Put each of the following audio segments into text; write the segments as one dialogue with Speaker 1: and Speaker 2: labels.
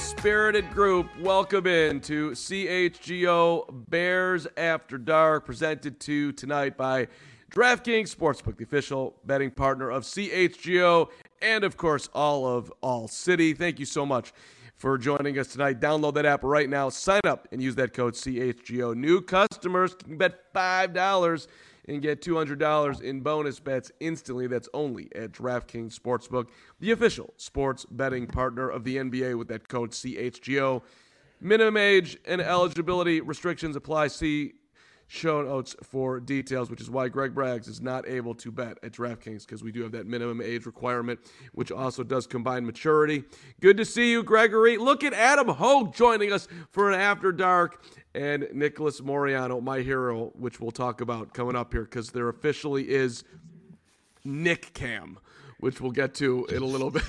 Speaker 1: spirited group, welcome in to CHGO Bears After Dark, presented to tonight by DraftKings Sportsbook, the official betting partner of CHGO, and of course All City. Thank you so much for joining us tonight. Download that app right now, sign up, and use that code CHGO. New customers can bet $5 and get $200 in bonus bets instantly. That's only at DraftKings Sportsbook, the official sports betting partner of the NBA, with that code CHGO. Minimum age and eligibility restrictions apply. See show notes for details, which is why Greg Braggs is not able to bet at DraftKings, because we do have that minimum age requirement, which also does combine maturity. Good to see you, Gregory. Look at Adam Hogue joining us for an After Dark, and Nicholas Moreano, my hero, which we'll talk about coming up here, because there officially is Nick Cam, which we'll get to in a little bit.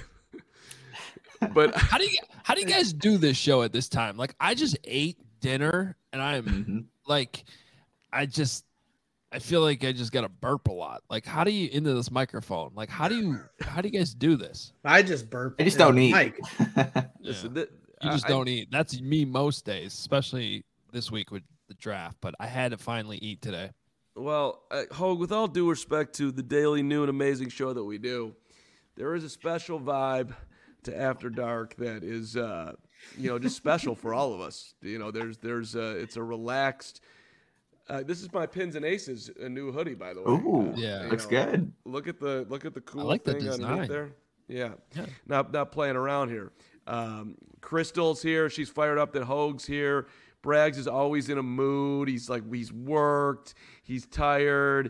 Speaker 1: But
Speaker 2: how do you guys do this show at this time? Like, I just ate dinner and I'm like, I feel like I just got to burp a lot. Like, how do you into this microphone? Like, how do you guys do this?
Speaker 3: I just burp.
Speaker 4: I just don't eat.
Speaker 1: Listen,
Speaker 2: you just don't eat. That's me most days, especially this week with the draft. But I had to finally eat today.
Speaker 1: Well, Hogue, with all due respect to the daily new and amazing show that we do, there is a special vibe to After Dark that is, just special for all of us. You know, it's a relaxed. This is my Pins and Aces, a new hoodie, by the way.
Speaker 4: Ooh, looks good.
Speaker 1: Look at the cool
Speaker 2: I like
Speaker 1: thing
Speaker 2: the design
Speaker 1: underneath there. Yeah. Not playing around here. Crystal's here. She's fired up that Hogue's here. Braggs is always in a mood. He's worked. He's tired.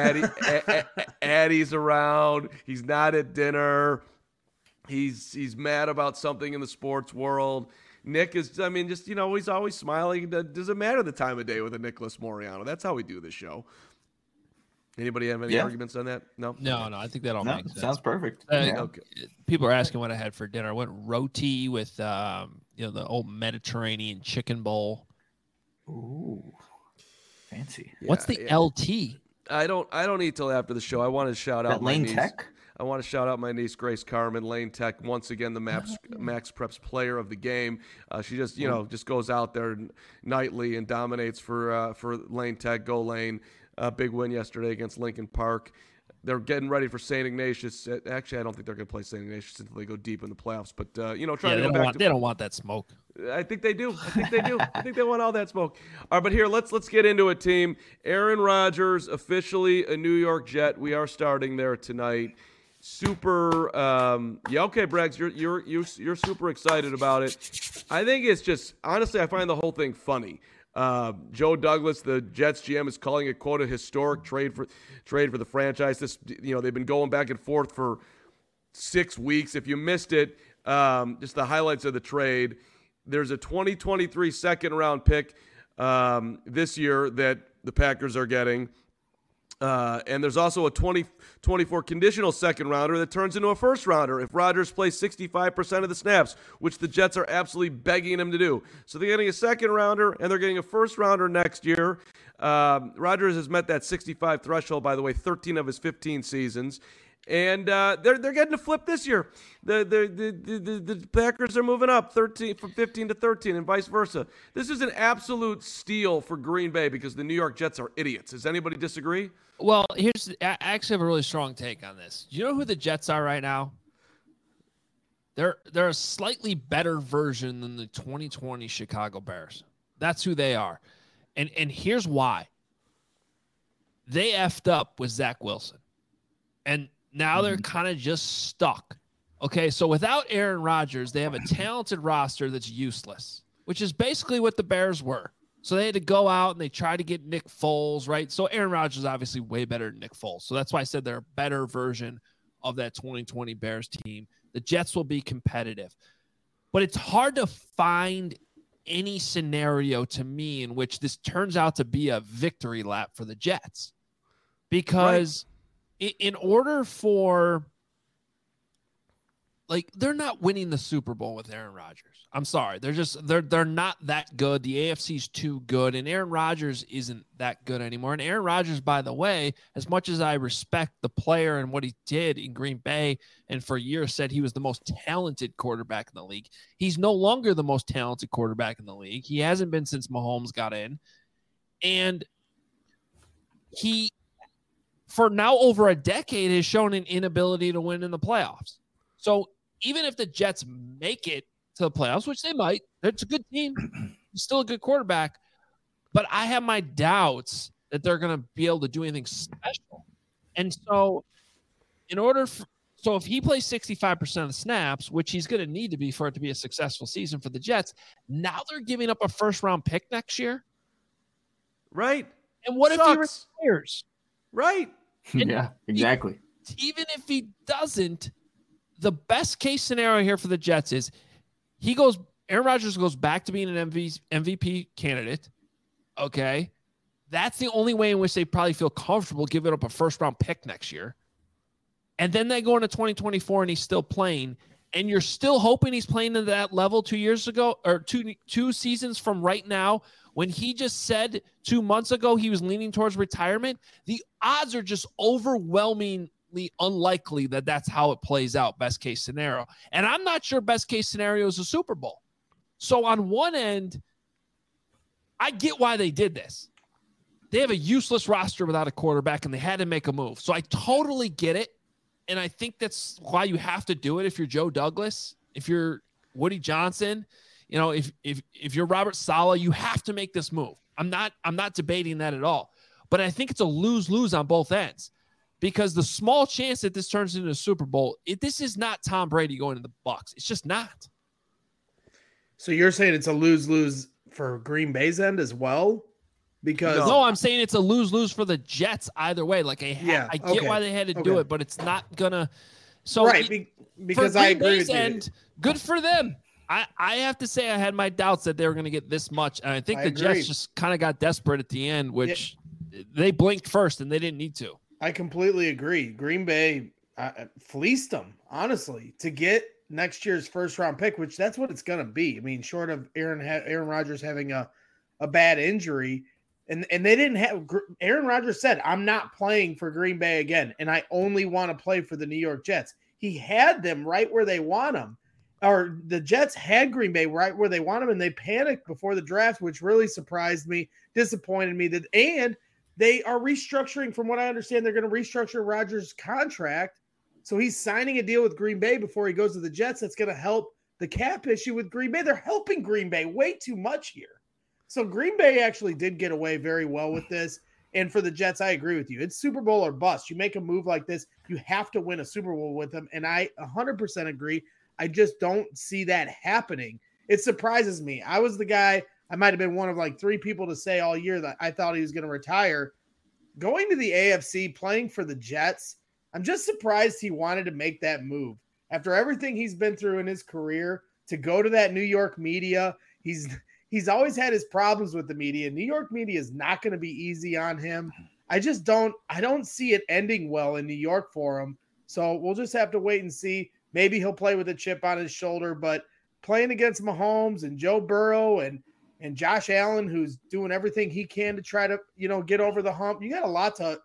Speaker 1: Addie's around. He's not at dinner. He's mad about something in the sports world. Nick is, he's always smiling. It doesn't matter the time of day with a Nicholas Moreano. That's how we do the show. Anybody have any arguments on that? No?
Speaker 2: No, I think that all makes sense.
Speaker 4: Sounds perfect.
Speaker 1: Okay.
Speaker 2: People are asking what I had for dinner. I went roti with, the old Mediterranean chicken bowl.
Speaker 4: Ooh, fancy.
Speaker 2: What's the LT?
Speaker 1: I don't eat till after the show. I want to shout out
Speaker 4: Lane Tech.
Speaker 1: I want to shout out my niece, Grace Carmen, Lane Tech, once again, the Max Preps player of the game. She just, just goes out there nightly and dominates for Lane Tech. Go Lane. Big win yesterday against Lincoln Park. They're getting ready for St. Ignatius. Actually, I don't think they're going to play St. Ignatius until they go deep in the playoffs. But, trying to go back.
Speaker 2: They don't want that smoke.
Speaker 1: I think they do. I think they want all that smoke. All right, but here, let's get into it, team. Aaron Rodgers, officially a New York Jet. We are starting there tonight. Super, okay, Braggs, you're super excited about it. I think it's just, honestly, I find the whole thing funny. Joe Douglas, the Jets GM, is calling it, quote, a historic trade for the franchise. This, they've been going back and forth for 6 weeks. If you missed it, just the highlights of the trade. There's a 2023 second-round pick this year that the Packers are getting. And there's also a 2024 conditional second rounder that turns into a first rounder if Rodgers plays 65% of the snaps, which the Jets are absolutely begging him to do. So they're getting a second rounder and they're getting a first rounder next year. Rodgers has met that 65 threshold, by the way, 13 of his 15 seasons. And they're getting a flip this year. The Packers are moving up 13 from 15 to 13 and vice versa. This is an absolute steal for Green Bay because the New York Jets are idiots. Does anybody disagree?
Speaker 2: Well, I actually have a really strong take on this. Do you know who the Jets are right now? They're a slightly better version than the 2020 Chicago Bears. That's who they are. And here's why. They effed up with Zach Wilson. And now they're kind of just stuck. Okay, so without Aaron Rodgers, they have a talented roster that's useless, which is basically what the Bears were. So they had to go out and they tried to get Nick Foles, right? So Aaron Rodgers is obviously way better than Nick Foles. So that's why I said they're a better version of that 2020 Bears team. The Jets will be competitive. But it's hard to find any scenario to me in which this turns out to be a victory lap for the Jets. Because in order for like they're not winning the Super Bowl with Aaron Rodgers. I'm sorry. They're not that good. The AFC's too good, and Aaron Rodgers isn't that good anymore. And Aaron Rodgers, by the way, as much as I respect the player and what he did in Green Bay, and for years said he was the most talented quarterback in the league, he's no longer the most talented quarterback in the league. He hasn't been since Mahomes got in. And he, for now over a decade, has shown an inability to win in the playoffs. So even if the Jets make it to the playoffs, which they might, it's a good team. He's still a good quarterback. But I have my doubts that they're going to be able to do anything special. And so if he plays 65% of the snaps, which he's going to need to be for it to be a successful season for the Jets, now they're giving up a first-round pick next year.
Speaker 1: Right.
Speaker 2: And what if he retires?
Speaker 1: Right.
Speaker 4: Yeah, exactly.
Speaker 2: Even if he doesn't, the best case scenario here for the Jets is Aaron Rodgers goes back to being an MVP candidate. Okay. That's the only way in which they probably feel comfortable giving up a first round pick next year. And then they go into 2024 and he's still playing, and you're still hoping he's playing to that level 2 years ago, or two seasons from right now, when he just said 2 months ago he was leaning towards retirement. The odds are just overwhelmingly unlikely that that's how it plays out, best case scenario. And I'm not sure best case scenario is a Super Bowl. So on one end, I get why they did this. They have a useless roster without a quarterback, and they had to make a move. So I totally get it. And I think that's why you have to do it if you're Joe Douglas, if you're Woody Johnson, if you're Robert Saleh, you have to make this move. I'm not debating that at all. But I think it's a lose-lose on both ends, because the small chance that this turns into a Super Bowl, this is not Tom Brady going to the Bucs. It's just not.
Speaker 3: So you're saying it's a lose-lose for Green Bay's end as well? Because
Speaker 2: no, I'm saying it's a lose-lose for the Jets either way. Like I get why they had to do it, but it's not gonna. So
Speaker 3: right, because I agree with you.
Speaker 2: Good for them. I have to say I had my doubts that they were going to get this much, and I think the Jets just kind of got desperate at the end, which they blinked first and they didn't need to.
Speaker 3: I completely agree. Green Bay fleeced them, honestly, to get next year's first-round pick, which that's what it's going to be. I mean, short of Aaron Rodgers having a bad injury. And they didn't have – Aaron Rodgers said, I'm not playing for Green Bay again, and I only want to play for the New York Jets. He had them right where they want him. Or the Jets had Green Bay right where they want him, and they panicked before the draft, which really surprised me, disappointed me. And they are restructuring, from what I understand, they're going to restructure Rodgers' contract. So he's signing a deal with Green Bay before he goes to the Jets. That's going to help the cap issue with Green Bay. They're helping Green Bay way too much here. So Green Bay actually did get away very well with this. And for the Jets, I agree with you. It's Super Bowl or bust. You make a move like this, you have to win a Super Bowl with them. And I 100% agree. I just don't see that happening. It surprises me. I was the guy, I might have been one of like 3 people to say all year that I thought he was going to retire. Going to the AFC, playing for the Jets, I'm just surprised he wanted to make that move. After everything he's been through in his career, to go to that New York media, He's always had his problems with the media. New York media is not going to be easy on him. I don't see it ending well in New York for him. So we'll just have to wait and see. Maybe he'll play with a chip on his shoulder, but playing against Mahomes and Joe Burrow and Josh Allen, who's doing everything he can to try to, get over the hump. You got a lot to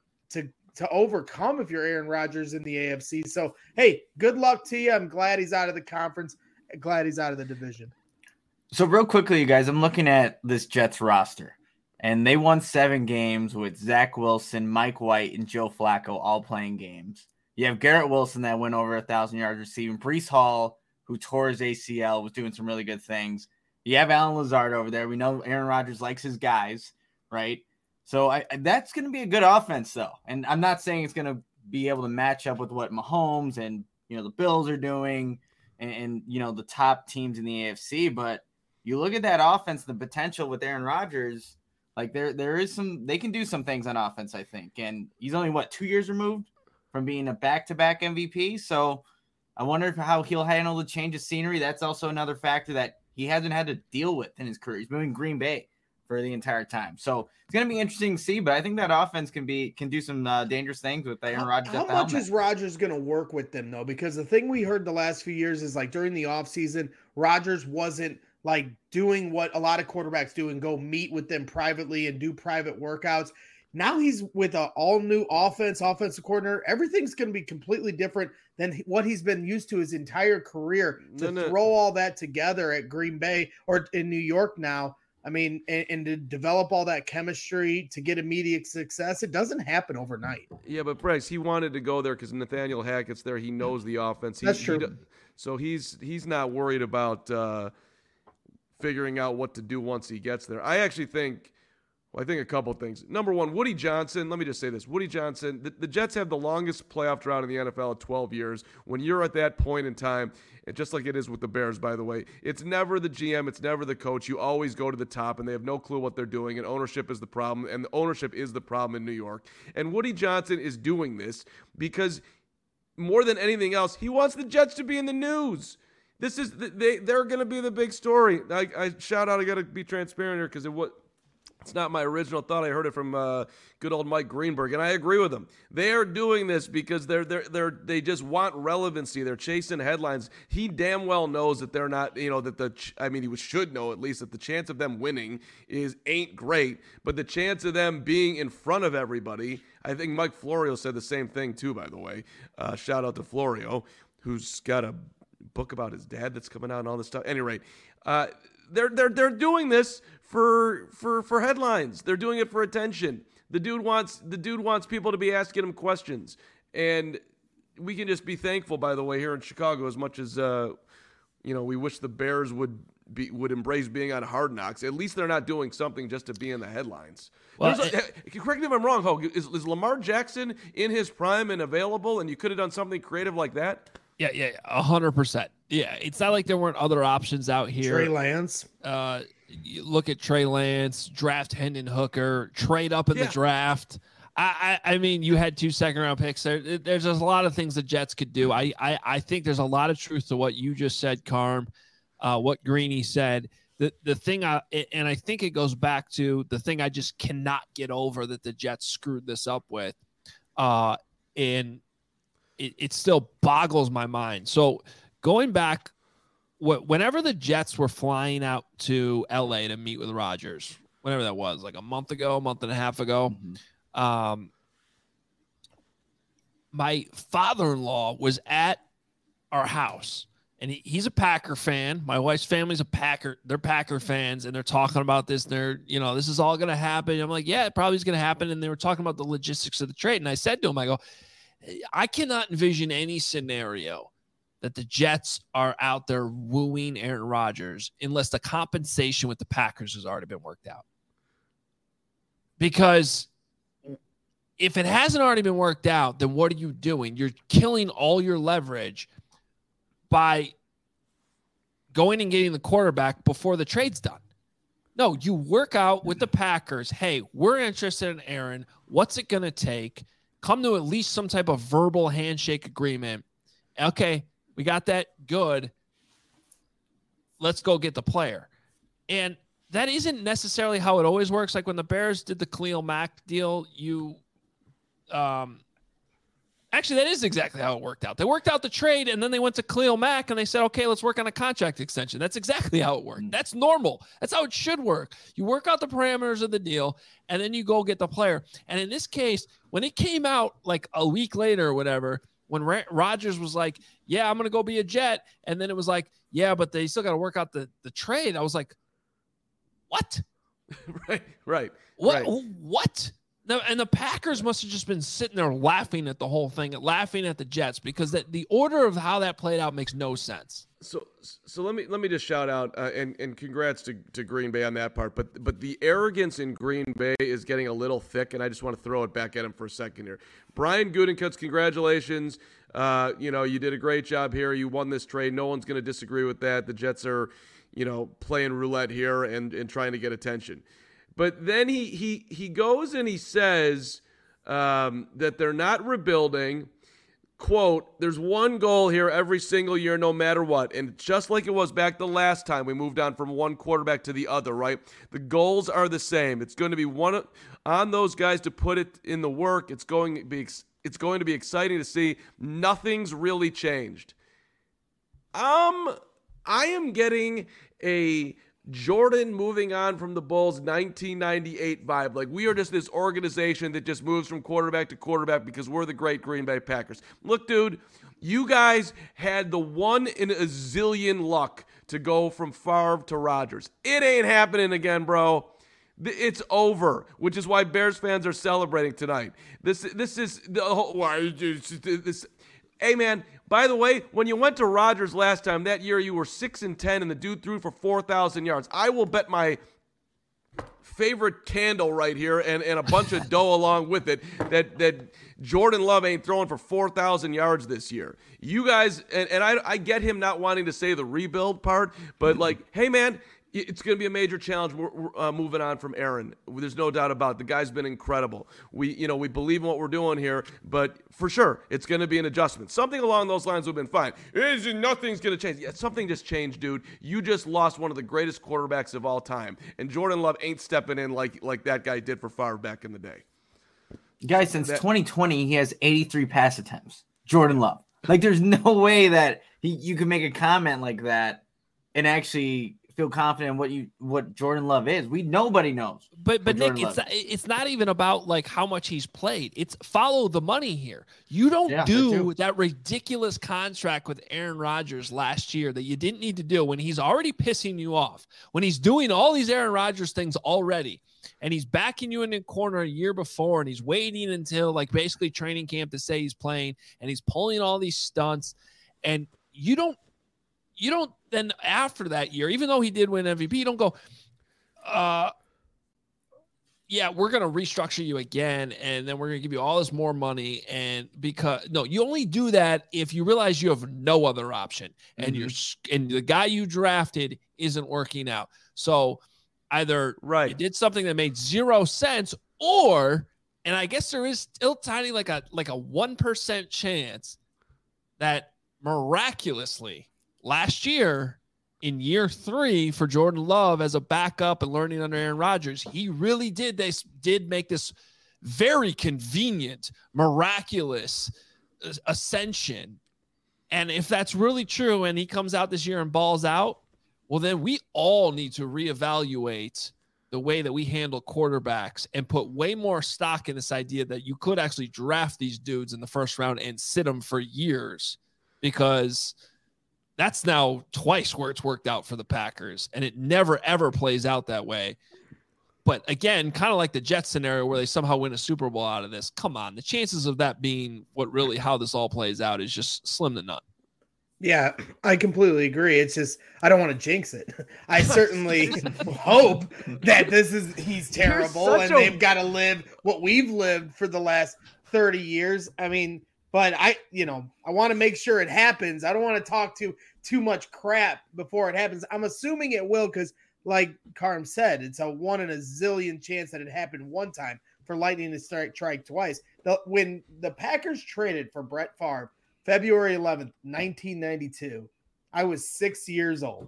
Speaker 3: overcome if you're Aaron Rodgers in the AFC. So, hey, good luck to you. I'm glad he's out of the conference. Glad he's out of the division.
Speaker 4: So real quickly, you guys, I'm looking at this Jets roster, and they won 7 games with Zach Wilson, Mike White, and Joe Flacco all playing games. You have Garrett Wilson that went over 1,000 yards receiving. Breece Hall, who tore his ACL, was doing some really good things. You have Alan Lazard over there. We know Aaron Rodgers likes his guys, right? So that's going to be a good offense, though. And I'm not saying it's going to be able to match up with what Mahomes and, the Bills are doing and the top teams in the AFC, but you look at that offense, the potential with Aaron Rodgers, like there is they can do some things on offense, I think. And he's only 2 years removed from being a back-to-back MVP. So I wonder how he'll handle the change of scenery. That's also another factor that he hasn't had to deal with in his career. He's been in Green Bay for the entire time. So it's going to be interesting to see, but I think that offense can do some dangerous things with Aaron Rodgers.
Speaker 3: How much is Rodgers going to work with them though? Because the thing we heard the last few years is like during the offseason, Rodgers wasn't like doing what a lot of quarterbacks do and go meet with them privately and do private workouts. Now he's with an all-new offensive coordinator. Everything's going to be completely different than what he's been used to his entire career. To throw all that together at Green Bay or in New York now, I mean, and to develop all that chemistry to get immediate success, it doesn't happen overnight.
Speaker 1: Yeah, but Bryce, he wanted to go there because Nathaniel Hackett's there. He knows the offense.
Speaker 3: That's true.
Speaker 1: So he's not worried about figuring out what to do once he gets there. I actually think – I think a couple things. Number one, Woody Johnson. Let me just say this. Woody Johnson, the Jets have the longest playoff drought in the NFL at 12 years. When you're at that point in time, and just like it is with the Bears, by the way, it's never the GM, it's never the coach. You always go to the top, and they have no clue what they're doing, and ownership is the problem, and the ownership is the problem in New York. And Woody Johnson is doing this because more than anything else, he wants the Jets to be in the news. This is they're going to be the big story. I shout out, I got to be transparent here because it's not my original thought. I heard it from good old Mike Greenberg, and I agree with him. They are doing this because they just want relevancy. They're chasing headlines. He damn well knows that they're not, he should know at least that the chance of them winning ain't great, but the chance of them being in front of everybody, I think Mike Florio said the same thing too, by the way. Shout out to Florio, who's got a book about his dad that's coming out and all this stuff. At any rate, they're doing this for headlines. They're doing it for attention. The dude wants people to be asking him questions, and we can just be thankful, by the way, here in Chicago, as much as we wish the Bears would embrace being on Hard Knocks. At least they're not doing something just to be in the headlines. Well, correct me if I'm wrong, Hogue. Is Lamar Jackson in his prime and available, and you could have done something creative like that?
Speaker 2: Yeah, 100%. Yeah, it's not like there weren't other options out here.
Speaker 3: Trey Lance.
Speaker 2: You look at Trey Lance, draft Hendon Hooker, trade up in the draft. I mean, you had 2 second-round picks. There's just a lot of things the Jets could do. I think there's a lot of truth to what you just said, Carm, what Greeny said. The thing, and I think it goes back to the thing I just cannot get over that the Jets screwed this up with, and it still boggles my mind. So going back, whenever the Jets were flying out to LA to meet with Rodgers, whenever that was, like a month and a half ago, my father-in-law was at our house, and he's a Packer fan. My wife's family's a Packer. They're Packer fans, and they're talking about this. And they're, this is all going to happen. I'm like, yeah, it probably is going to happen. And they were talking about the logistics of the trade. And I said to him, I go, I cannot envision any scenario that the Jets are out there wooing Aaron Rodgers unless the compensation with the Packers has already been worked out. Because if it hasn't already been worked out, then what are you doing? You're killing all your leverage by going and getting the quarterback before the trade's done. No, you work out with the Packers. Hey, we're interested in Aaron. What's it going to take? Come to at least some type of verbal handshake agreement. Okay, we got that. Good. Let's go get the player. And that isn't necessarily how it always works. Like when the Bears did the Khalil Mack deal, actually, that is exactly how it worked out. They worked out the trade, and then they went to Khalil Mack, and they said, okay, let's work on a contract extension. That's exactly how it worked. That's normal. That's how it should work. You work out the parameters of the deal, and then you go get the player. And in this case, when it came out like a week later or whatever, when Rodgers was like, yeah, I'm going to go be a Jet, and then it was like, yeah, but they still got to work out the trade. I was like, what?
Speaker 1: Right.
Speaker 2: What? And the Packers must have just been sitting there laughing at the whole thing, laughing at the Jets, because the order of how that played out makes no sense.
Speaker 1: So let me just shout out and congrats to Green Bay on that part. But the arrogance in Green Bay is getting a little thick, and I just want to throw it back at him for a second here. Brian Gutekunst, congratulations. You did a great job here. You won this trade. No one's going to disagree with that. The Jets are, playing roulette here and trying to get attention. But then he goes and he says that they're not rebuilding. quote, there's one goal here every single year, no matter what. And just like it was back the last time we moved on from one quarterback to the other, right? The goals are the same. It's going to be one on those guys to put it in the work. It's going to be exciting to see. Nothing's really changed. I am getting a Jordan moving on from the Bulls 1998 vibe. Like, we are just this organization that just moves from quarterback to quarterback because we're the great Green Bay Packers. Look, dude, you guys had the one in a zillion luck to go from Favre to Rodgers. It ain't happening again, bro. It's over, which is why Bears fans are celebrating tonight. This is the whole. Hey, man, by the way, when you went to Rodgers last time, that year you were 6-10, and the dude threw for 4,000 yards. I will bet my favorite candle right here and a bunch of dough along with it that Jordan Love ain't throwing for 4,000 yards this year. You guys, and I get him not wanting to say the rebuild part, but like, hey, man, it's going to be a major challenge. We're moving on from Aaron. There's no doubt about it. The guy's been incredible. We believe in what we're doing here, but for sure, it's going to be an adjustment. Something along those lines would have been fine. Nothing's going to change. Yeah, something just changed, dude. You just lost one of the greatest quarterbacks of all time, and Jordan Love ain't stepping in like that guy did for Favre back in the day.
Speaker 4: Guys, since 2020, he has 83 pass attempts. Jordan Love. Like, there's no way that you can make a comment like that and actually feel confident in what Jordan Love is. Nobody knows.
Speaker 2: But Nick, it's not even about like how much he's played. It's follow the money here. You don't do that ridiculous contract with Aaron Rodgers last year that you didn't need to do when he's already pissing you off, when he's doing all these Aaron Rodgers things already, and he's backing you in the corner a year before, and he's waiting until like basically training camp to say he's playing, and he's pulling all these stunts, and you don't then after that year, even though he did win MVP, you don't go, yeah, we're going to restructure you again, and then we're going to give you all this more money. And you only do that if you realize you have no other option, and and the guy you drafted isn't working out. So either you did something that made zero sense, or, and I guess there is still tiny like a 1% chance that miraculously last year, in year 3 for Jordan Love as a backup and learning under Aaron Rodgers, he really did make this very convenient, miraculous ascension. And if that's really true and he comes out this year and balls out, well, then we all need to reevaluate the way that we handle quarterbacks and put way more stock in this idea that you could actually draft these dudes in the first round and sit them for years, because that's now twice where it's worked out for the Packers, and it never, ever plays out that way. But again, kind of like the Jets scenario where they somehow win a Super Bowl out of this. Come on. The chances of that being how this all plays out is just slim to none.
Speaker 3: Yeah, I completely agree. It's just, I don't want to jinx it. I certainly hope that he's terrible and they've got to live what we've lived for the last 30 years. I mean, but I want to make sure it happens. I don't want to talk too much crap before it happens. I'm assuming it will, because like Carm said, it's a 1 in a zillion chance that it happened one time for lightning to strike twice. When the Packers traded for Brett Favre, February 11th, 1992, I was 6 years old.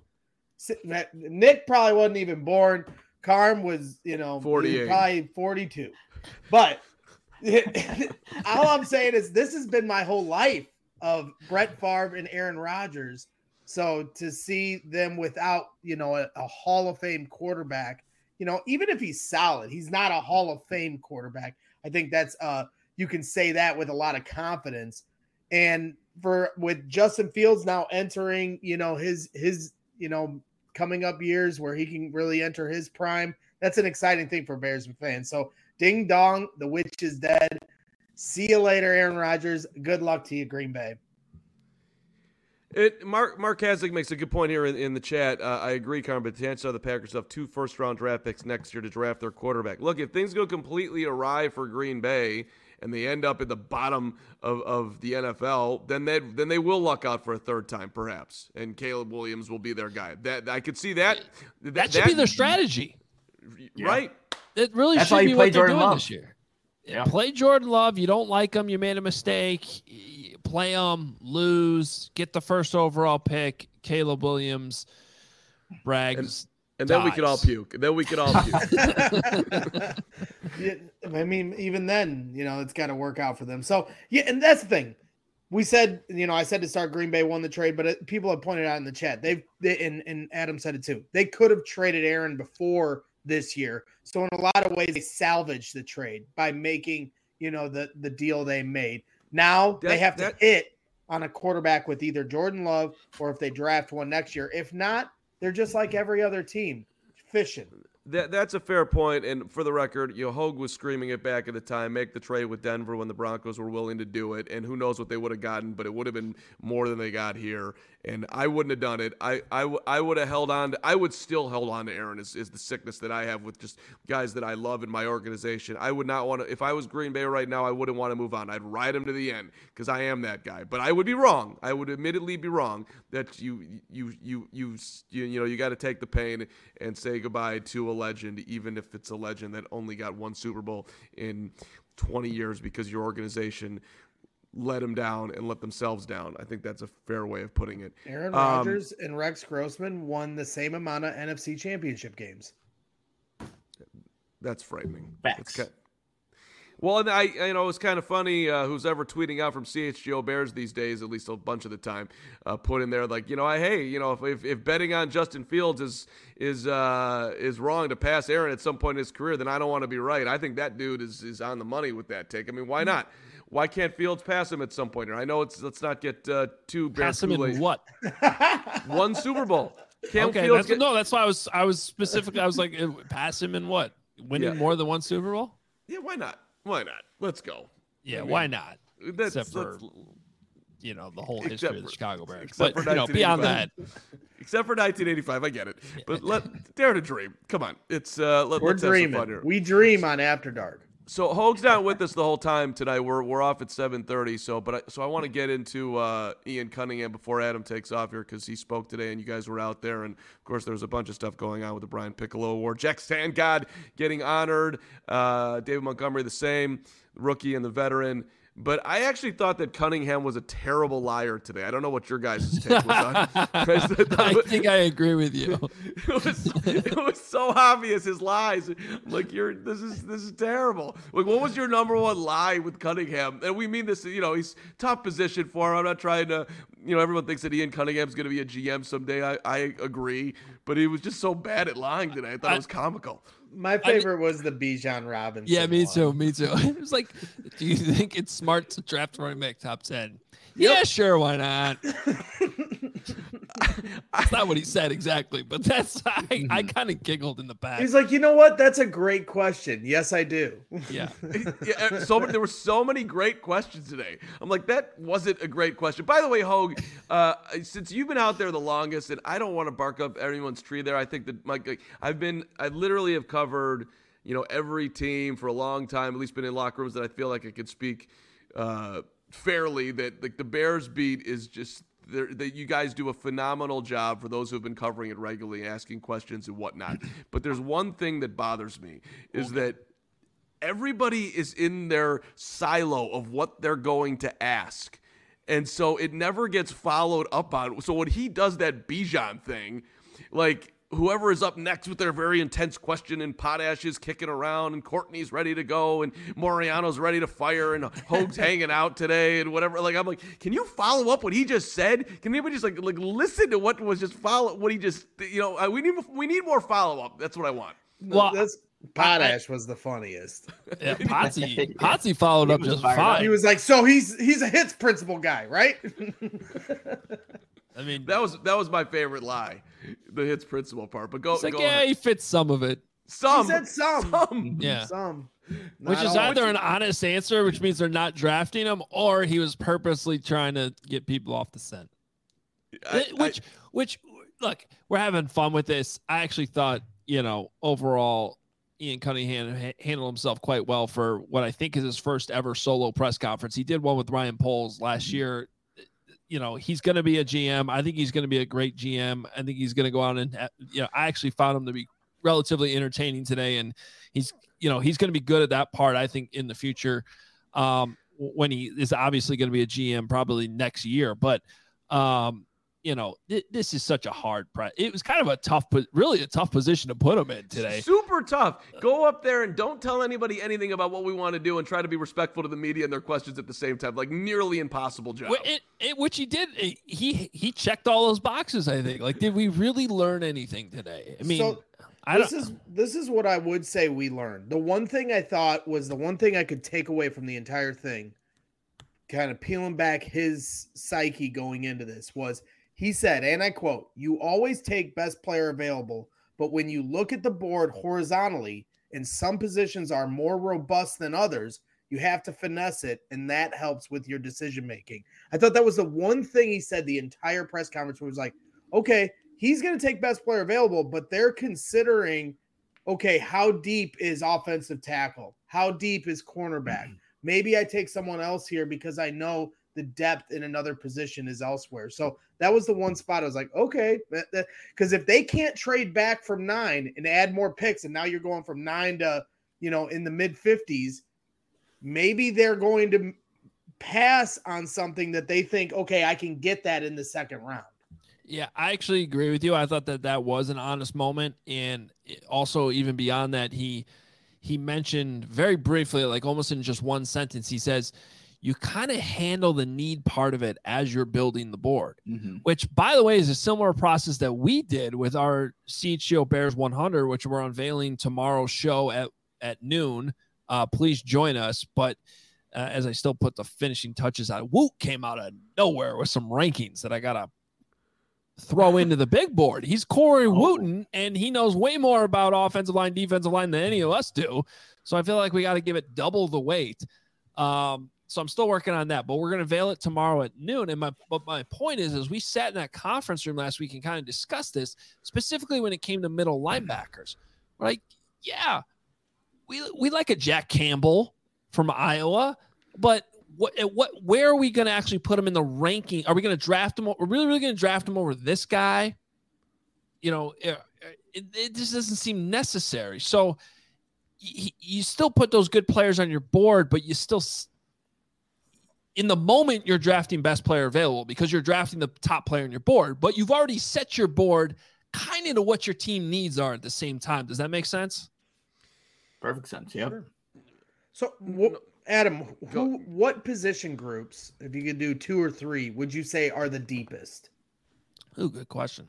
Speaker 3: Nick probably wasn't even born. Carm was,
Speaker 1: 48.
Speaker 3: Probably 42. But all I'm saying is this has been my whole life of Brett Favre and Aaron Rodgers. So to see them without, a Hall of Fame quarterback, even if he's solid, he's not a Hall of Fame quarterback. I think that's you can say that with a lot of confidence. And with Justin Fields now entering, his coming up years where he can really enter his prime, that's an exciting thing for Bears fans. So ding dong, the witch is dead. See you later, Aaron Rodgers. Good luck to you, Green Bay.
Speaker 1: Mark Hasek makes a good point here in the chat. I agree, Carmen, but the chances are the Packers have 2 first-round draft picks next year to draft their quarterback. Look, if things go completely awry for Green Bay and they end up at the bottom of the NFL, then they will luck out for a third time, perhaps, and Caleb Williams will be their guy. That I could see that.
Speaker 2: That should be their strategy,
Speaker 1: right?
Speaker 2: It really should be what they're doing this year.
Speaker 4: Yeah.
Speaker 2: Play Jordan Love. You don't like him. You made a mistake. Play him, lose, get the first overall pick. Caleb Williams, brags.
Speaker 1: And then we could all puke. Yeah,
Speaker 3: I mean, even then, it's got to work out for them. So, yeah, and that's the thing. We said, I said to start Green Bay won the trade, but people have pointed out in the chat, and Adam said it too. They could have traded Aaron before this year. So in a lot of ways, they salvaged the trade by making, the deal they made. Now they have to hit on a quarterback with either Jordan Love or if they draft one next year. If not, they're just like every other team, fishing.
Speaker 1: That's a fair point. And for the record, Hogue was screaming it back at the time, make the trade with Denver when the Broncos were willing to do it. And who knows what they would have gotten, but it would have been more than they got here. And I wouldn't have done it. I would have held on. I would still hold on to Aaron is the sickness that I have with just guys that I love in my organization. I would not want to, if I was Green Bay right now, I wouldn't want to move on. I'd ride him to the end because I am that guy. But I would be wrong. I would admittedly be wrong that you got to take the pain and say goodbye to a legend, even if it's a legend that only got one Super Bowl in 20 years because your organization let them down and let themselves down. I think that's a fair way of putting it.
Speaker 3: Aaron Rodgers and Rex Grossman won the same amount of NFC championship games.
Speaker 1: That's frightening.
Speaker 4: Facts.
Speaker 1: Well, and it was kind of funny. Who's ever tweeting out from CHGO Bears these days, at least a bunch of the time, put in there like, if betting on Justin Fields is wrong to pass Aaron at some point in his career, then I don't want to be right. I think that dude is on the money with that take. I mean, why not? Why can't Fields pass him at some point? I know let's not get too
Speaker 2: pass him in what?
Speaker 1: One Super Bowl.
Speaker 2: That's why I was specific. I was like, pass him in what? Winning more than one Super Bowl?
Speaker 1: Yeah, why not? Why not? Let's go.
Speaker 2: Yeah, why not? Except for the whole history of the Chicago Bears. But beyond that,
Speaker 1: except for 1985, I get it. But dare to dream. Come on, it's we're
Speaker 3: dreaming.
Speaker 1: Have some fun here.
Speaker 3: We dream on After Dark.
Speaker 1: So Hogue's not with us the whole time tonight. We're off at 7:30. So I want to get into Ian Cunningham before Adam takes off here because he spoke today and you guys were out there. And of course there was a bunch of stuff going on with the Brian Piccolo Award. Jack Sandgod getting honored. David Montgomery the same, rookie and the veteran. But I actually thought that Cunningham was a terrible liar today. I don't know what your guys' take was on.
Speaker 2: I think I agree with you.
Speaker 1: It was so obvious his lies. I'm like, this is terrible. Like, what was your number one lie with Cunningham? And we mean this. He's tough position for him. I'm not trying to. Everyone thinks that Ian Cunningham's going to be a GM someday. I agree, but he was just so bad at lying today. I thought it was comical.
Speaker 3: My favorite was the Bijan Robinson.
Speaker 2: Yeah, me too. It was like, do you think it's smart to draft running back top 10?
Speaker 3: Yep.
Speaker 2: Yeah, sure, why not? That's not what he said exactly, but I kind of giggled in the back.
Speaker 3: He's like, you know what? That's a great question. Yes, I do.
Speaker 2: Yeah.
Speaker 1: There were so many great questions today. I'm like, that wasn't a great question. By the way, Hogue, since you've been out there the longest, and I don't want to bark up anyone's tree there. I think that I literally have covered, every team for a long time, at least been in locker rooms that I feel like I could speak fairly, that like the Bears beat is just that you guys do a phenomenal job for those who have been covering it regularly, asking questions and whatnot. But there's one thing that bothers me is that everybody is in their silo of what they're going to ask. And so it never gets followed up on. So when he does that Bijan thing, like whoever is up next with their very intense question and Potash is kicking around and Courtney's ready to go and Moriano's ready to fire and Hogue's hanging out today and whatever. Like, I'm like, can you follow up what he just said? Can anybody just like listen to what was just what he just, we need more follow up. That's what I want.
Speaker 3: Well, Potash was the funniest.
Speaker 2: Yeah, Potsy followed up just fine.
Speaker 3: He was like, so he's a hits principal guy, right?
Speaker 2: I mean,
Speaker 1: that was my favorite lie, the hits principal part. But go
Speaker 2: like,
Speaker 1: ahead.
Speaker 2: He fits some of it.
Speaker 3: He said some.
Speaker 2: Yeah,
Speaker 3: some.
Speaker 2: Which is either an honest answer, which means they're not drafting him, or he was purposely trying to get people off the scent. Which look, we're having fun with this. I actually thought, overall, Ian Cunningham handled himself quite well for what I think is his first ever solo press conference. He did one with Ryan Poles last year. He's going to be a GM. I think he's going to be a great GM. I think he's going to go out and, I actually found him to be relatively entertaining today. And he's he's going to be good at that part, I think, in the future, when he is obviously going to be a GM probably next year. But, this is such a hard press. It was kind of a tough position to put him in today.
Speaker 1: Super tough. Go up there and don't tell anybody anything about what we want to do, and try to be respectful to the media and their questions at the same time. Like, nearly impossible job.
Speaker 2: Which he did. He checked all those boxes, I think. Like, did we really learn anything today? I mean,
Speaker 3: this is what I would say we learned. The one thing I thought was the one thing I could take away from the entire thing, kind of peeling back his psyche going into this, was he said, and I quote, "You always take best player available, but when you look at the board horizontally and some positions are more robust than others, you have to finesse it, and that helps with your decision making." I thought that was the one thing he said the entire press conference, where he was like, okay, he's going to take best player available, but they're considering, okay, how deep is offensive tackle? How deep is cornerback? Maybe I take someone else here because I know the depth in another position is elsewhere. So that was the one spot I was like, okay, because if they can't trade back from 9 and add more picks, and now you're going from 9 to, in the mid 50s, maybe they're going to pass on something that they think, okay, I can get that in the second round.
Speaker 2: Yeah, I actually agree with you. I thought that was an honest moment. And also, even beyond that, he mentioned very briefly, like almost in just one sentence, he says, you kind of handle the need part of it as you're building the board, which, by the way, is a similar process that we did with our CHGO Bears 100, which we're unveiling tomorrow's show at noon. Please join us. But as I still put the finishing touches on, Woot came out of nowhere with some rankings that I got to throw into the big board. He's Corey Wooten, and he knows way more about offensive line, defensive line than any of us do. So I feel like we got to give it double the weight. So I'm still working on that, but we're going to veil it tomorrow at noon. And my point is we sat in that conference room last week and kind of discussed this, specifically when it came to middle linebackers. We're like, yeah, we like a Jack Campbell from Iowa, but where are we going to actually put him in the ranking? Are we going to draft him? Are we really going to draft him over this guy? It just doesn't seem necessary. So you still put those good players on your board, but you still, in the moment, you're drafting best player available because you're drafting the top player on your board, but you've already set your board kind of to what your team needs are at the same time. Does that make sense?
Speaker 4: Perfect sense. Yep.
Speaker 3: Sure. So Adam, what position groups, if you could do 2 or 3, would you say are the deepest?
Speaker 2: Oh, good question.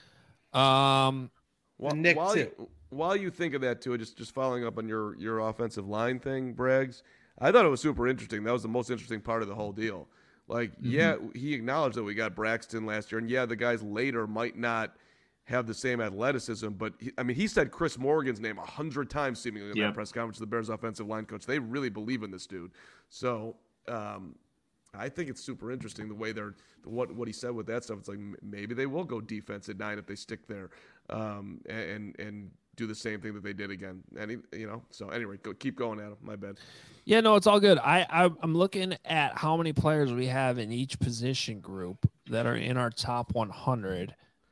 Speaker 3: Nick,
Speaker 1: while you think of that too, just following up on your offensive line thing, Braggs, I thought it was super interesting. That was the most interesting part of the whole deal. Like, yeah, he acknowledged that we got Braxton last year, and yeah, the guys later might not have the same athleticism, but he said Chris Morgan's name 100 times seemingly in that press conference, the Bears offensive line coach. They really believe in this dude. So I think it's super interesting the way what he said with that stuff. It's like maybe they will go defense at 9 if they stick there, and do the same thing that they did again. And so anyway, keep going, Adam. My bad.
Speaker 2: Yeah, no, it's all good. I'm looking at how many players we have in each position group that are in our top 100.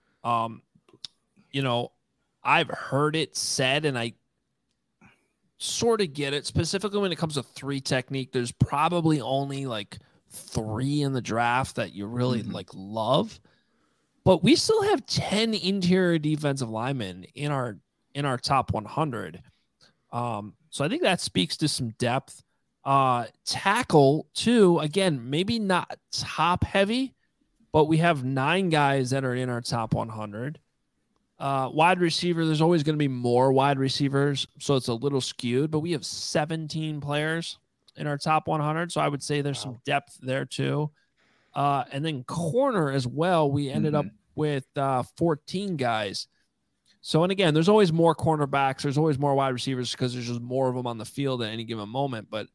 Speaker 2: I've heard it said, and I sort of get it, specifically when it comes to 3 technique. There's probably only like 3 in the draft that you really love, but we still have 10 interior defensive linemen in our top 100. So I think that speaks to some depth. Tackle too, again, maybe not top heavy, but we have 9 guys that are in our top 100. Wide receiver, there's always going to be more wide receivers, so it's a little skewed, but we have 17 players in our top 100, so I would say there's some depth there too. And then corner as well, we ended up with 14 guys. So, and again, there's always more cornerbacks, there's always more wide receivers because there's just more of them on the field at any given moment, but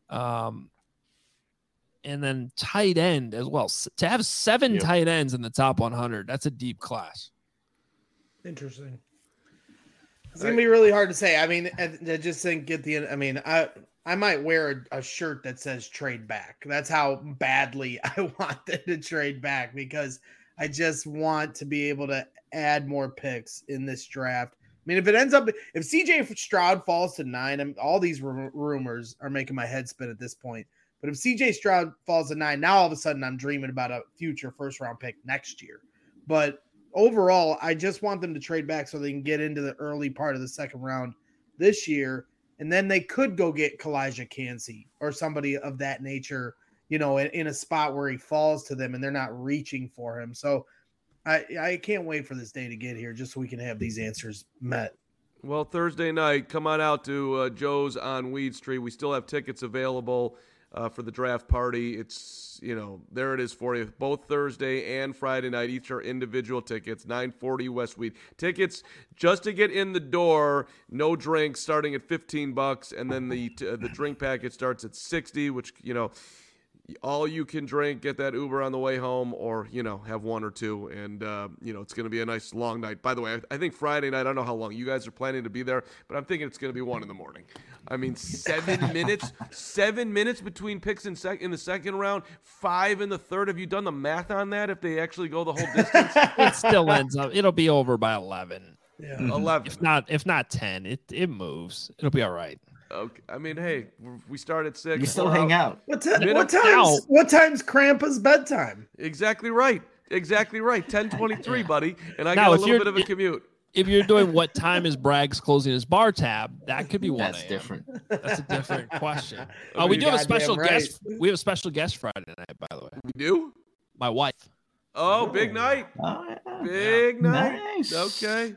Speaker 2: and then tight end as well. To have 7 tight ends in the top 100, that's a deep class.
Speaker 3: Interesting. It's going to be really hard to say. I mean, I just think I might wear a shirt that says trade back. That's how badly I want them to trade back, because I just want to be able to add more picks in this draft. mean, if CJ Stroud falls to 9, all these rumors are making my head spin at this point. But if CJ Stroud falls to 9, now all of a sudden I'm dreaming about a future first-round pick next year. But overall, I just want them to trade back so they can get into the early part of the second round this year, and then they could go get Kalijah Kancey or somebody of that nature, in a spot where he falls to them and they're not reaching for him. So I can't wait for this day to get here just so we can have these answers met.
Speaker 1: Well, Thursday night, come on out to Joe's on Weed Street. We still have tickets available for the draft party. It's, there it is for you. Both Thursday and Friday night, each are individual tickets, 940 West Weed. Tickets just to get in the door, no drinks, starting at $15, and then the drink package starts at $60, which, all you can drink, get that Uber on the way home, or, have one or two. And, it's going to be a nice long night. By the way, I think Friday night, I don't know how long you guys are planning to be there, but I'm thinking it's going to be 1 a.m. I mean, 7 minutes between picks in the second round, 5 in the third. Have you done the math on that? If they actually go the whole distance,
Speaker 2: it still ends up, it'll be over by 11.
Speaker 3: Yeah.
Speaker 1: 11.
Speaker 2: If not 10, it moves. It'll be all right.
Speaker 1: Okay. I mean, hey, we start at 6.
Speaker 4: You still hang out.
Speaker 3: What time's Krampa's bedtime?
Speaker 1: Exactly right. 10:23, buddy. And I got a little bit of a commute.
Speaker 2: If you're doing what time is Bragg's closing his bar tab, that could be 1 a.m.
Speaker 4: That's different.
Speaker 2: That's a different question. We do have a special guest. We have a special guest Friday night, by the way.
Speaker 1: We do?
Speaker 2: My wife.
Speaker 1: Oh, big night.
Speaker 4: Oh, yeah.
Speaker 1: Big night.
Speaker 4: Nice.
Speaker 1: Okay.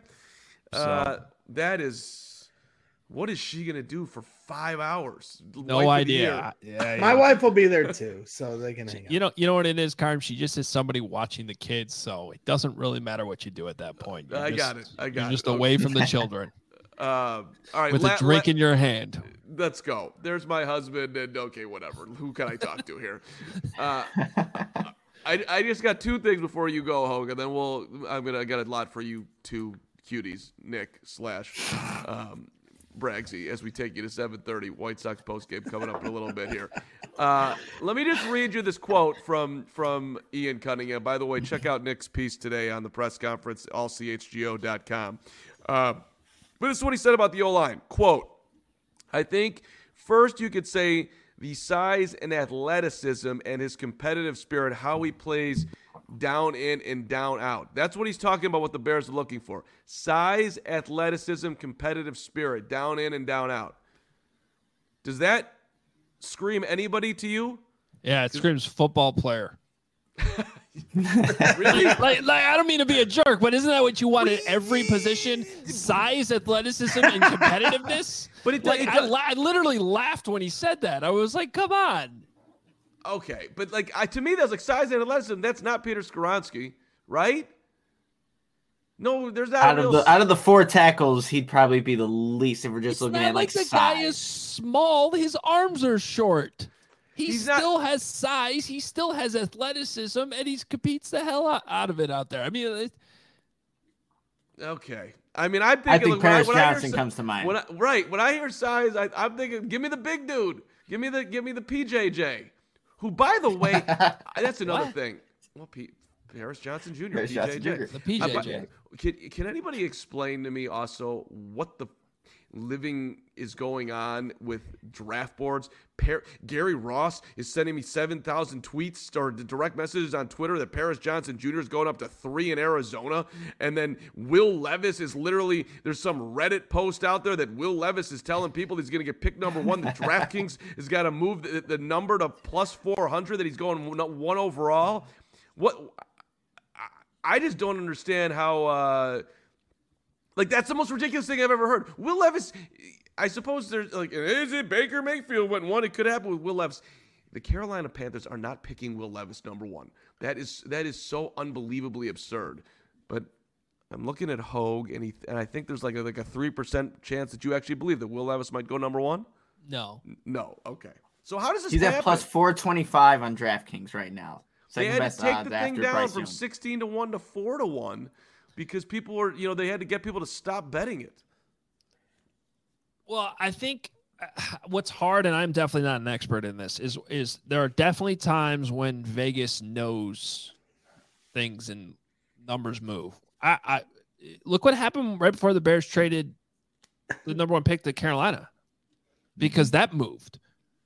Speaker 1: That is. What is she going to do for 5 hours?
Speaker 2: No idea.
Speaker 3: Yeah, my wife will be there too, so they can hang out.
Speaker 2: You know what it is, Carm? She just is somebody watching the kids, so it doesn't really matter what you do at that point. You're just away from the children.
Speaker 1: All right.
Speaker 2: With a drink in your hand.
Speaker 1: Let's go. There's my husband, and okay, whatever. Who can I talk to here? I just got 2 things before you go, Hogue, and then I got a lot for you 2 cuties, Nick / Braggsy, as we take you to 7:30 White Sox postgame coming up in a little bit here. Let me just read you this quote from Ian Cunningham. By the way, check out Nick's piece today on the press conference, allchgo.com. But this is what he said about the O-line. Quote, I think first you could say the size and athleticism and his competitive spirit, how he plays down in and down out. That's what he's talking about, what the Bears are looking for. Size, athleticism, competitive spirit, down in and down out. Does that scream anybody to you?
Speaker 2: Yeah, it screams football player.
Speaker 1: Really?
Speaker 2: like I don't mean to be a jerk, but isn't that what you want at every position? Size, athleticism, and competitiveness? But I literally laughed when he said that. I was like, come on.
Speaker 1: Okay, but to me, that's like size and athleticism. That's not Peter Skoronski, right? No, there's not.
Speaker 4: Out of the 4 tackles, he'd probably be the least if we're just looking at
Speaker 2: the
Speaker 4: size.
Speaker 2: Guy is small. His arms are short. He still has size. He still has athleticism, and he competes the hell out of it out there. I mean,
Speaker 1: okay. I mean, I
Speaker 4: think Paris Johnson comes to mind.
Speaker 1: When I hear size, I'm thinking, give me the big dude. Give me the PJJ. Who, by the way, that's another thing. Well, Paris Johnson Jr., PJJ.
Speaker 2: The PJJ.
Speaker 1: Can anybody explain to me also what the living is going on with draft boards? Gary Ross is sending me 7,000 tweets or direct messages on Twitter that Paris Johnson Jr. is going up to 3 in Arizona. And then Will Levis is literally, there's some Reddit post out there that Will Levis is telling people he's going to get pick number 1. The DraftKings has got to move the number to plus 400, that he's going 1 overall. I just don't understand how, that's the most ridiculous thing I've ever heard. Will Levis, I suppose there's is it Baker Mayfield went 1? It could happen with Will Levis. The Carolina Panthers are not picking Will Levis number 1. That is so unbelievably absurd. But I'm looking at Hogue, and I think there's like a 3% chance that you actually believe that Will Levis might go number 1.
Speaker 2: No.
Speaker 1: Okay. So how does this?
Speaker 4: He's at plus 425 on DraftKings right now.
Speaker 1: They had to take the thing down from 16 to 1 to 4 to 1. Because people were, they had to get people to stop betting it.
Speaker 2: Well, I think what's hard, and I'm definitely not an expert in this, is there are definitely times when Vegas knows things and numbers move. look what happened right before the Bears traded the number 1 pick to Carolina, because that moved.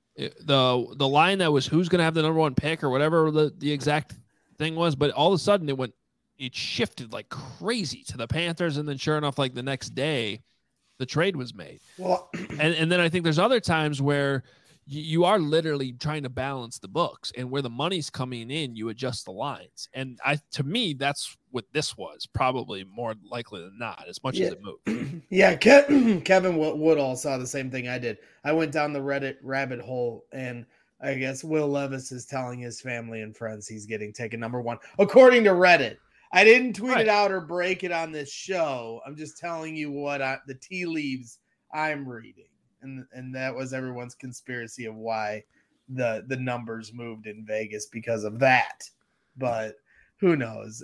Speaker 2: The line that was who's going to have the number 1 pick or whatever the exact thing was, but all of a sudden it shifted like crazy to the Panthers, and then sure enough, like the next day, the trade was made. Well, and then I think there's other times where you are literally trying to balance the books, and where the money's coming in, you adjust the lines. And to me, that's what this was, probably more likely than not, as much as it moved.
Speaker 3: Yeah, Kevin Woodall saw the same thing I did. I went down the Reddit rabbit hole, and I guess Will Levis is telling his family and friends he's getting taken number 1, according to Reddit. I didn't tweet it out or break it on this show. I'm just telling you what the tea leaves I'm reading. And that was everyone's conspiracy of why the numbers moved in Vegas because of that. But who knows?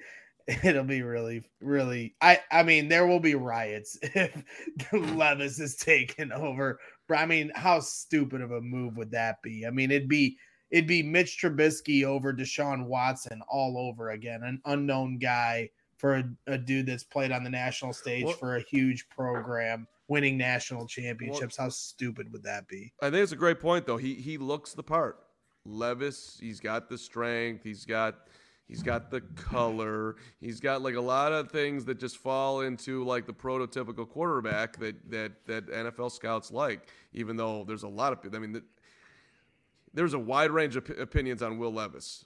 Speaker 3: It'll be really, really. I mean, there will be riots if Levis is taken over. I mean, how stupid of a move would that be? I mean, it'd be Mitch Trubisky over Deshaun Watson all over again, an unknown guy for a dude that's played on the national stage for a huge program, winning national championships. How stupid would that be?
Speaker 1: I think it's a great point, though. He looks the part. Levis, he's got the strength. He's got the color. He's got like a lot of things that just fall into like the prototypical quarterback that NFL scouts like, even though there's a lot of, I mean, there's a wide range of opinions on Will Levis.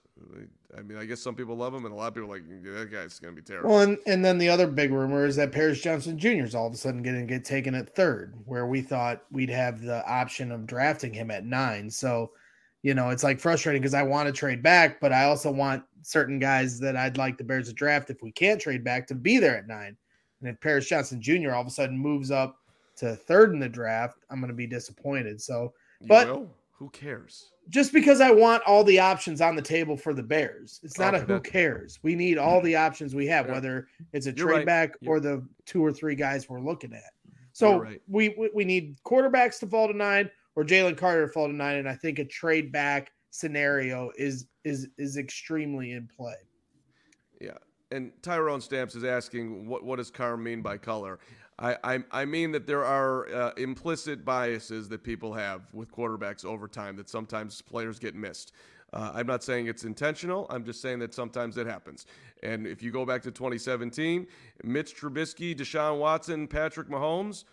Speaker 1: I mean, I guess some people love him, and a lot of people are like, yeah, that guy's going to be terrible.
Speaker 3: Well, and then the other big rumor is that Paris Johnson Jr. is all of a sudden going to get taken at 3rd, where we thought we'd have the option of drafting him at 9. So, you know, it's like frustrating because I want to trade back, but I also want certain guys that I'd like the Bears to draft if we can't trade back to be there at 9. And if Paris Johnson Jr. all of a sudden moves up to 3rd in the draft, I'm going to be disappointed. So, but
Speaker 1: who cares?
Speaker 3: Just because I want all the options on the table for the Bears. It's not who cares. We need all the options we have, whether it's a trade back or the 2 or 3 guys we're looking at. So we need quarterbacks to fall to 9 or Jalen Carter to fall to 9, and I think a trade back scenario is extremely in play.
Speaker 1: Yeah, and Tyrone Stamps is asking, what does Carm mean by color? I mean that there are implicit biases that people have with quarterbacks over time that sometimes players get missed. I'm not saying it's intentional. I'm just saying that sometimes it happens. And if you go back to 2017, Mitch Trubisky, Deshaun Watson, Patrick Mahomes,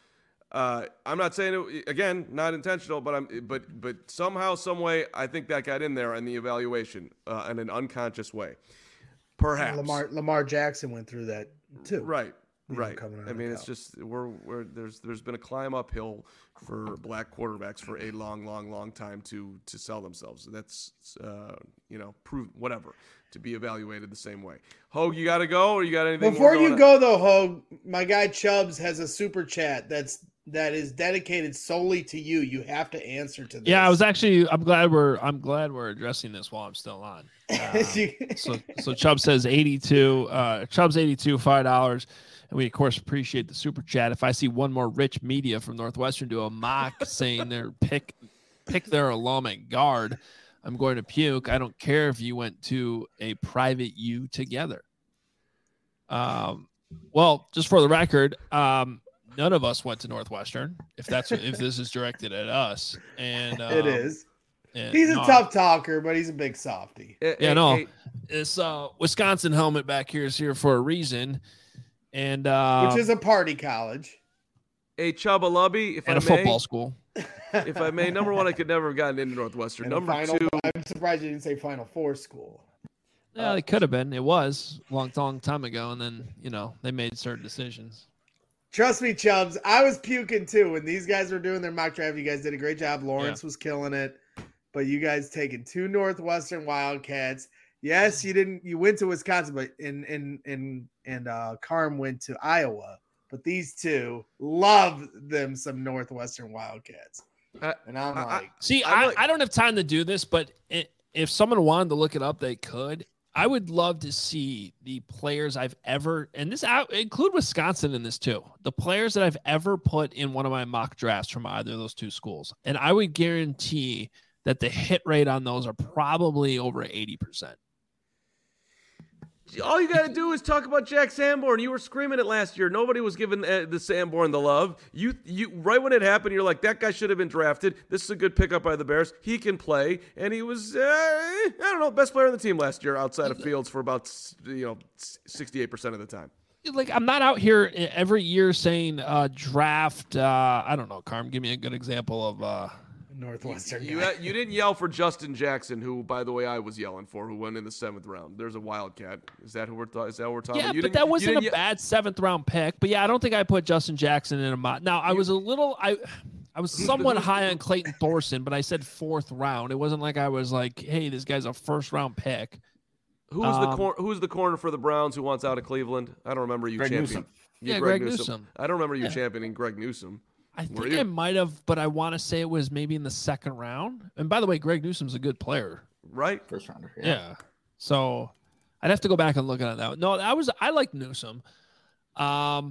Speaker 1: I'm not saying it, again, not intentional, but somehow, some way, I think that got in there in the evaluation in an unconscious way. Perhaps
Speaker 3: Lamar Jackson went through that too.
Speaker 1: Right. I mean, it's just there's been a climb uphill for black quarterbacks for a long time to sell themselves. That's prove whatever to be evaluated the same way. Hogue, you got to go, or you got anything?
Speaker 3: Before you go though, Hogue, my guy Chubbs has a super chat that is dedicated solely to you. You have to answer to this.
Speaker 2: Yeah, I'm glad we're addressing this while I'm still on. So Chubb says 82. Chubb's 82, $5. And we, of course, appreciate the super chat. If I see one more Rich Media from Northwestern do a mock saying their pick their alum at guard, I'm going to puke. I don't care if you went to a private U together. Well, just for the record, none of us went to Northwestern. If this is directed at us, and
Speaker 3: it is. He's a tough talker, but he's a big softy.
Speaker 2: This Wisconsin helmet back here is here for a reason. And
Speaker 3: which is a party college.
Speaker 1: A Chubba Lubby,
Speaker 2: a football school.
Speaker 1: If I may, number 1, I could never have gotten into Northwestern. Number 2,
Speaker 3: I'm surprised you didn't say Final Four school.
Speaker 2: Yeah, it could have been. It was a long time ago, and then they made certain decisions.
Speaker 3: Trust me, Chubbs, I was puking too when these guys were doing their mock draft. You guys did a great job. Lawrence was killing it, but you guys taking 2 Northwestern Wildcats. Yes, you didn't. You went to Wisconsin, but Carm went to Iowa. But these two love them some Northwestern Wildcats, and I'm like,
Speaker 2: I don't have time to do this, but if someone wanted to look it up, they could. I would love to see the players I've ever, and this include Wisconsin in this too, the players that I've ever put in one of my mock drafts from either of those 2 schools, and I would guarantee that the hit rate on those are probably over 80%.
Speaker 1: All you got to do is talk about Jack Sanborn. You were screaming it last year. Nobody was giving the Sanborn the love. You right when it happened, you're like, that guy should have been drafted. This is a good pickup by the Bears. He can play, and he was I don't know, best player on the team last year outside of Fields for about 68% of the time.
Speaker 2: Like, I'm not out here every year saying draft. I don't know, Carm. Give me a good example of.
Speaker 3: Northwestern.
Speaker 1: You didn't yell for Justin Jackson, who, by the way, I was yelling for, who went in the 7th round. There's a Wildcat. Is that what we're talking
Speaker 2: yeah,
Speaker 1: about?
Speaker 2: Yeah, but that wasn't a bad 7th round pick. But yeah, I don't think I put Justin Jackson in a mod. Now I was I was somewhat high on Clayton Thorson, but I said 4th round. It wasn't like I was like, hey, this guy's a 1st round pick.
Speaker 1: Who's the corner for the Browns who wants out of Cleveland? I don't remember you championing.
Speaker 2: Yeah, Greg Newsome.
Speaker 1: I don't remember you championing Greg Newsome.
Speaker 2: I think I might have, but I want to say it was maybe in the 2nd round. And by the way, Greg Newsome's a good player.
Speaker 1: Right?
Speaker 4: 1st rounder.
Speaker 2: Yeah. So I'd have to go back and look at that. No, I like Newsome. I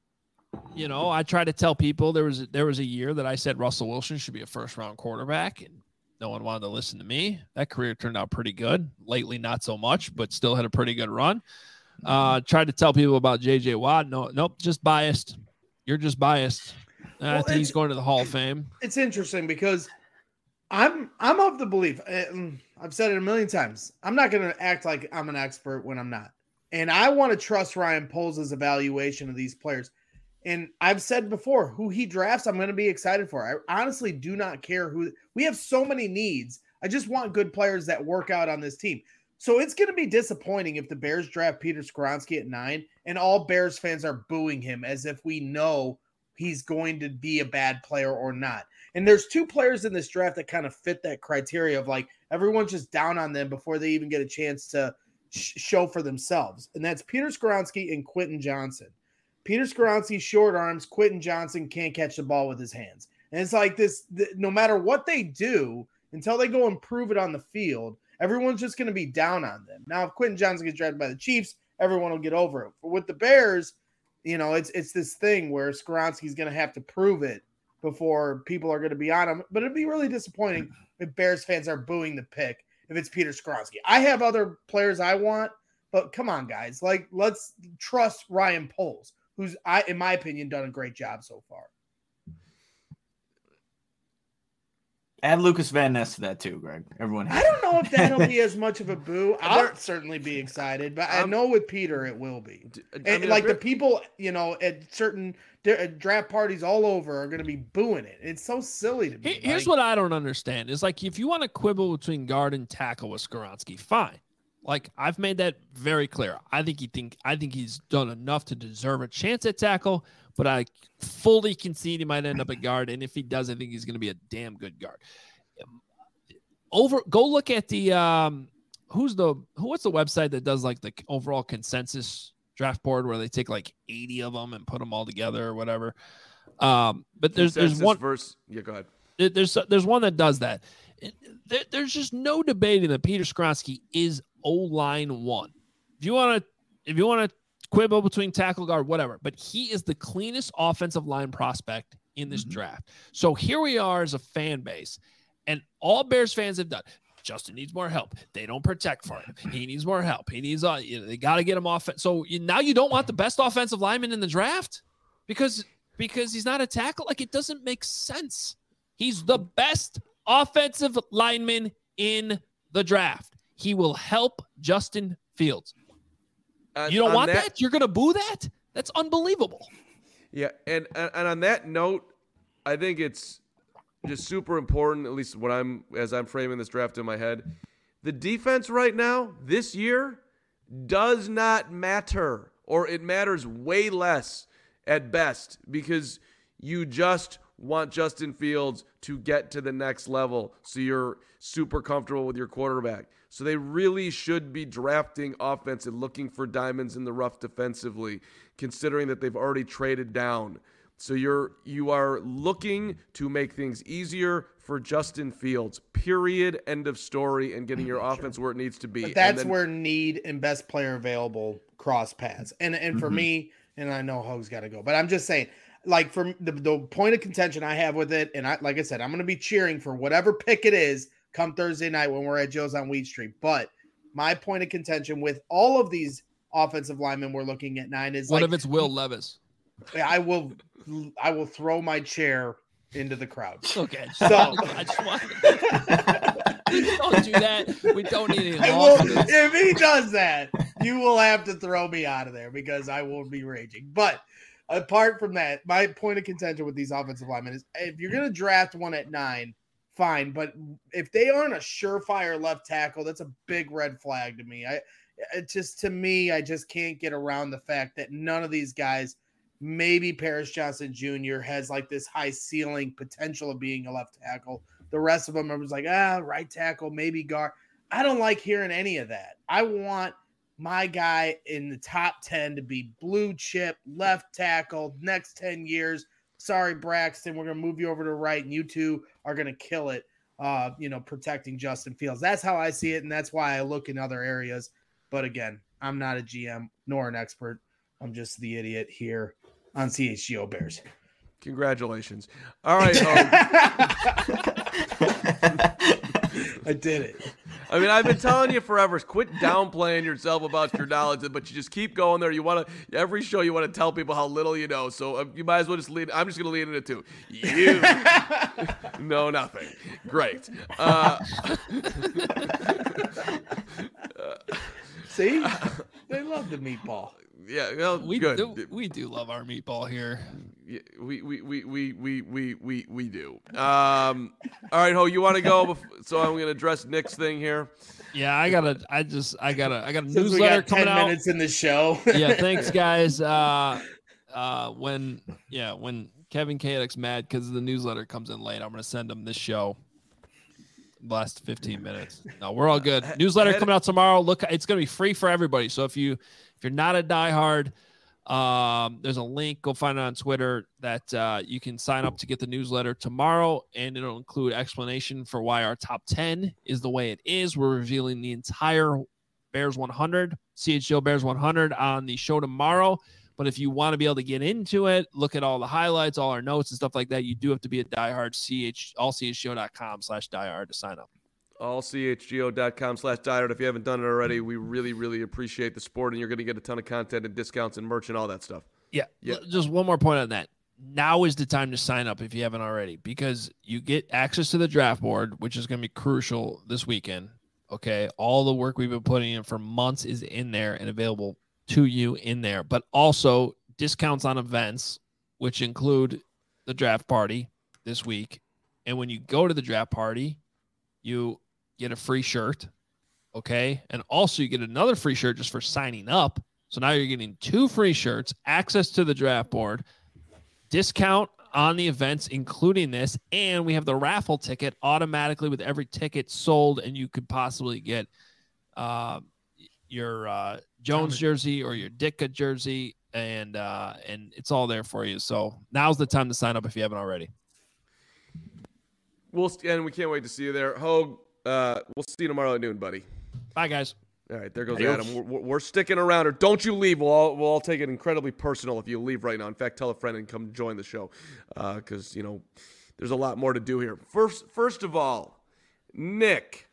Speaker 2: try to tell people there was a year that I said Russell Wilson should be a 1st round quarterback, and no one wanted to listen to me. That career turned out pretty good. Lately, not so much, but still had a pretty good run. Tried to tell people about J.J. Watt. Nope, just biased. You're just biased. I think he's going to the Hall of Fame.
Speaker 3: It's interesting because I'm of the belief, I've said it a million times, I'm not going to act like I'm an expert when I'm not. And I want to trust Ryan Poles' evaluation of these players. And I've said before, who he drafts, I'm going to be excited for. I honestly do not care who. We have so many needs. I just want good players that work out on this team. So it's going to be disappointing if the Bears draft Peter Skoronski at 9 and all Bears fans are booing him as if we know he's going to be a bad player or not. And there's 2 players in this draft that kind of fit that criteria of like everyone's just down on them before they even get a chance to show for themselves. And that's Peter Skoronski and Quentin Johnson. Peter Skoronski, short arms. Quentin Johnson can't catch the ball with his hands. And it's like this, no matter what they do, until they go and prove it on the field, everyone's just going to be down on them. Now, if Quentin Johnson gets drafted by the Chiefs, everyone will get over it. But with the Bears, it's this thing where Skoronski's going to have to prove it before people are going to be on him. But it'd be really disappointing if Bears fans are booing the pick if it's Peter Skoronski. I have other players I want, but come on, guys. Like, let's trust Ryan Poles, who's, in my opinion, done a great job so far.
Speaker 4: Add Lucas Van Ness to that too, Greg. Everyone.
Speaker 3: I don't know if that'll be as much of a boo. I'll certainly be excited, but I know with Peter it will be. And like the people, at certain draft parties all over are going to be booing it. It's so silly to me.
Speaker 2: Here's what I don't understand is like if you want to quibble between guard and tackle with Skoronski, fine. Like I've made that very clear. I think he's done enough to deserve a chance at tackle, but I fully concede he might end up at guard. And if he does, I think he's going to be a damn good guard. Go look at the what's the website that does like the overall consensus draft board where they take like 80 of them and put them all together or whatever. But there's one
Speaker 1: verse. Yeah, go ahead.
Speaker 2: There's one that does that. There's just no debating that Peter Skoronski is O-line 1. If you want to quibble between tackle, guard, whatever, but he is the cleanest offensive line prospect in this draft. So here we are as a fan base, and all Bears fans have done. Justin needs more help. They don't protect for him. He needs more help. He needs they got to get him off. So now you don't want the best offensive lineman in the draft because he's not a tackle. Like it doesn't make sense. He's the best offensive lineman in the draft. He will help Justin Fields. You don't want that? You're going to boo that? That's unbelievable.
Speaker 1: Yeah, and on that note, I think it's just super important, at least as I'm framing this draft in my head. The defense right now, this year, does not matter, or it matters way less at best because you just want Justin Fields to get to the next level so you're super comfortable with your quarterback. So they really should be drafting offense and looking for diamonds in the rough defensively, considering that they've already traded down. So you are looking to make things easier for Justin Fields, period, end of story, and getting your offense where it needs to be.
Speaker 3: But that's where need and best player available cross paths. And for me, and I know Hoge's got to go, but I'm just saying, like for the point of contention I have with it, and like I said, I'm going to be cheering for whatever pick it is come Thursday night when we're at Joe's on Wheat Street. But my point of contention with all of these offensive linemen we're looking at 9 is
Speaker 2: what
Speaker 3: like,
Speaker 2: if it's Will Levis?
Speaker 3: I will throw my chair into the crowd.
Speaker 2: Okay.
Speaker 3: So
Speaker 2: I just want don't do that. We don't need any
Speaker 3: will,
Speaker 2: lawsuits.
Speaker 3: if he does that, you will have to throw me out of there because I will be raging. But apart from that, my point of contention with these offensive linemen is if you're going to draft one at 9, fine. But if they aren't a surefire left tackle, that's a big red flag to me. I just can't get around the fact that none of these guys, maybe Paris Johnson Jr. has like this high ceiling potential of being a left tackle. The rest of them are like, right tackle, maybe guard. I don't like hearing any of that. I want my guy in the top 10 to be blue chip, left tackle, next 10 years. Sorry, Braxton, we're going to move you over to right, and you two are going to kill it, protecting Justin Fields. That's how I see it, and that's why I look in other areas. But again, I'm not a GM nor an expert. I'm just the idiot here on CHGO Bears.
Speaker 1: Congratulations. All right.
Speaker 3: I did it.
Speaker 1: I mean, I've been telling you forever, quit downplaying yourself about your knowledge, but you just keep going there. Every show you want to tell people how little you know. So you might as well just lead. I'm just going to lead into two. You know nothing. Great.
Speaker 3: See? They love the meatball.
Speaker 1: Yeah, well,
Speaker 2: we
Speaker 1: good.
Speaker 2: do love our meatball here.
Speaker 1: Yeah, we do. All right, Ho, you want to go? So I'm going to address Nick's thing here.
Speaker 2: Yeah, I got a
Speaker 3: Since
Speaker 2: newsletter
Speaker 3: we got 10
Speaker 2: coming out.
Speaker 3: minutes in the show.
Speaker 2: Yeah, thanks guys. When Kevin Kadek's mad because the newsletter comes in late, I'm going to send him this show. Last 15 minutes. No, we're all good. Newsletter coming out tomorrow. Look, it's going to be free for everybody. So if you're not a diehard, there's a link. Go find it on Twitter that you can sign up to get the newsletter tomorrow, and it'll include explanation for why our top 10 is the way it is. We're revealing the entire Bears 100, CHGO Bears 100 on the show tomorrow. But if you want to be able to get into it, look at all the highlights, all our notes and stuff like that, you do have to be a diehard, allchgo.com/diehard to sign up.
Speaker 1: Allchgo.com/diehard. If you haven't done it already, we really, really appreciate the support, and you're going to get a ton of content and discounts and merch and all that stuff.
Speaker 2: Yeah. Just one more point on that. Now is the time to sign up if you haven't already, because you get access to the draft board, which is going to be crucial this weekend. Okay. All the work we've been putting in for months is in there and available to you in there, but also discounts on events, which include the draft party this week. And when you go to the draft party, you get a free shirt. Okay. And also you get another free shirt just for signing up. So now you're getting 2 free shirts, access to the draft board, discount on the events, including this. And we have the raffle ticket automatically with every ticket sold. And you could possibly get, your Jones jersey or your Ditka jersey, and it's all there for you. So now's the time to sign up if you haven't already.
Speaker 1: And we can't wait to see you there. Hogue, we'll see you tomorrow at noon, buddy.
Speaker 2: Bye, guys.
Speaker 1: All right, there goes Adam. We're sticking around, or don't you leave. We'll all take it incredibly personal if you leave right now. In fact, tell a friend and come join the show, because there's a lot more to do here. First of all, Nick.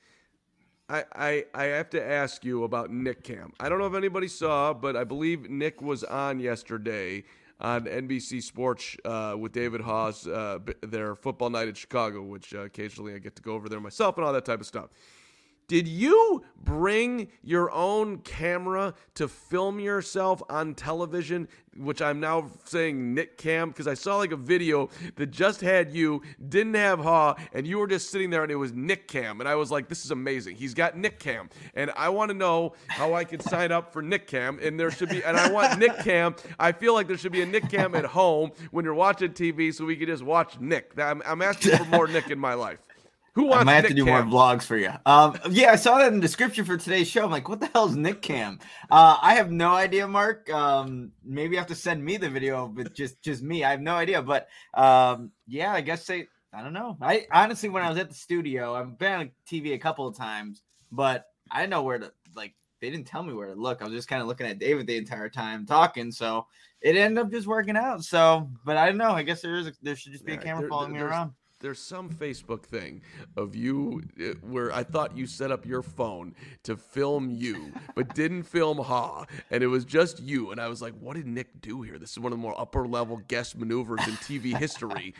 Speaker 1: I have to ask you about Nick Cam. I don't know if anybody saw, but I believe Nick was on yesterday on NBC Sports with David Haas, their football night in Chicago, which occasionally I get to go over there myself and all that type of stuff. Did you bring your own camera to film yourself on television, which I'm now saying Nick Cam, because I saw like a video that just had you, didn't have Ha, and you were just sitting there and it was Nick Cam. And I was like, this is amazing. He's got Nick Cam. And I want to know how I can sign up for Nick Cam. And there should be, and I want Nick Cam. I feel like there should be a Nick Cam at home when you're watching TV so we can just watch Nick. I'm asking for more Nick in my life. Who wants
Speaker 4: I might have
Speaker 1: Nick
Speaker 4: to do
Speaker 1: Cam?
Speaker 4: more vlogs for you. Yeah, I saw that in the description for today's show. I'm like, what the hell is Nick Cam? I have no idea, Mark. Maybe you have to send me the video, but just me. I have no idea. But yeah, I guess I don't know. I honestly, when I was at the studio, I've been on TV a couple of times, but I didn't know where to, like, they didn't tell me where to look. I was just kind of looking at David the entire time talking. So it ended up just working out. So, but I don't know. I guess there should just be a camera following me around.
Speaker 1: some Facebook thing of you where I thought you set up your phone to film you, but didn't film Ha, and it was just you. And I was like, what did Nick do here? This is one of the more upper level guest maneuvers in TV history.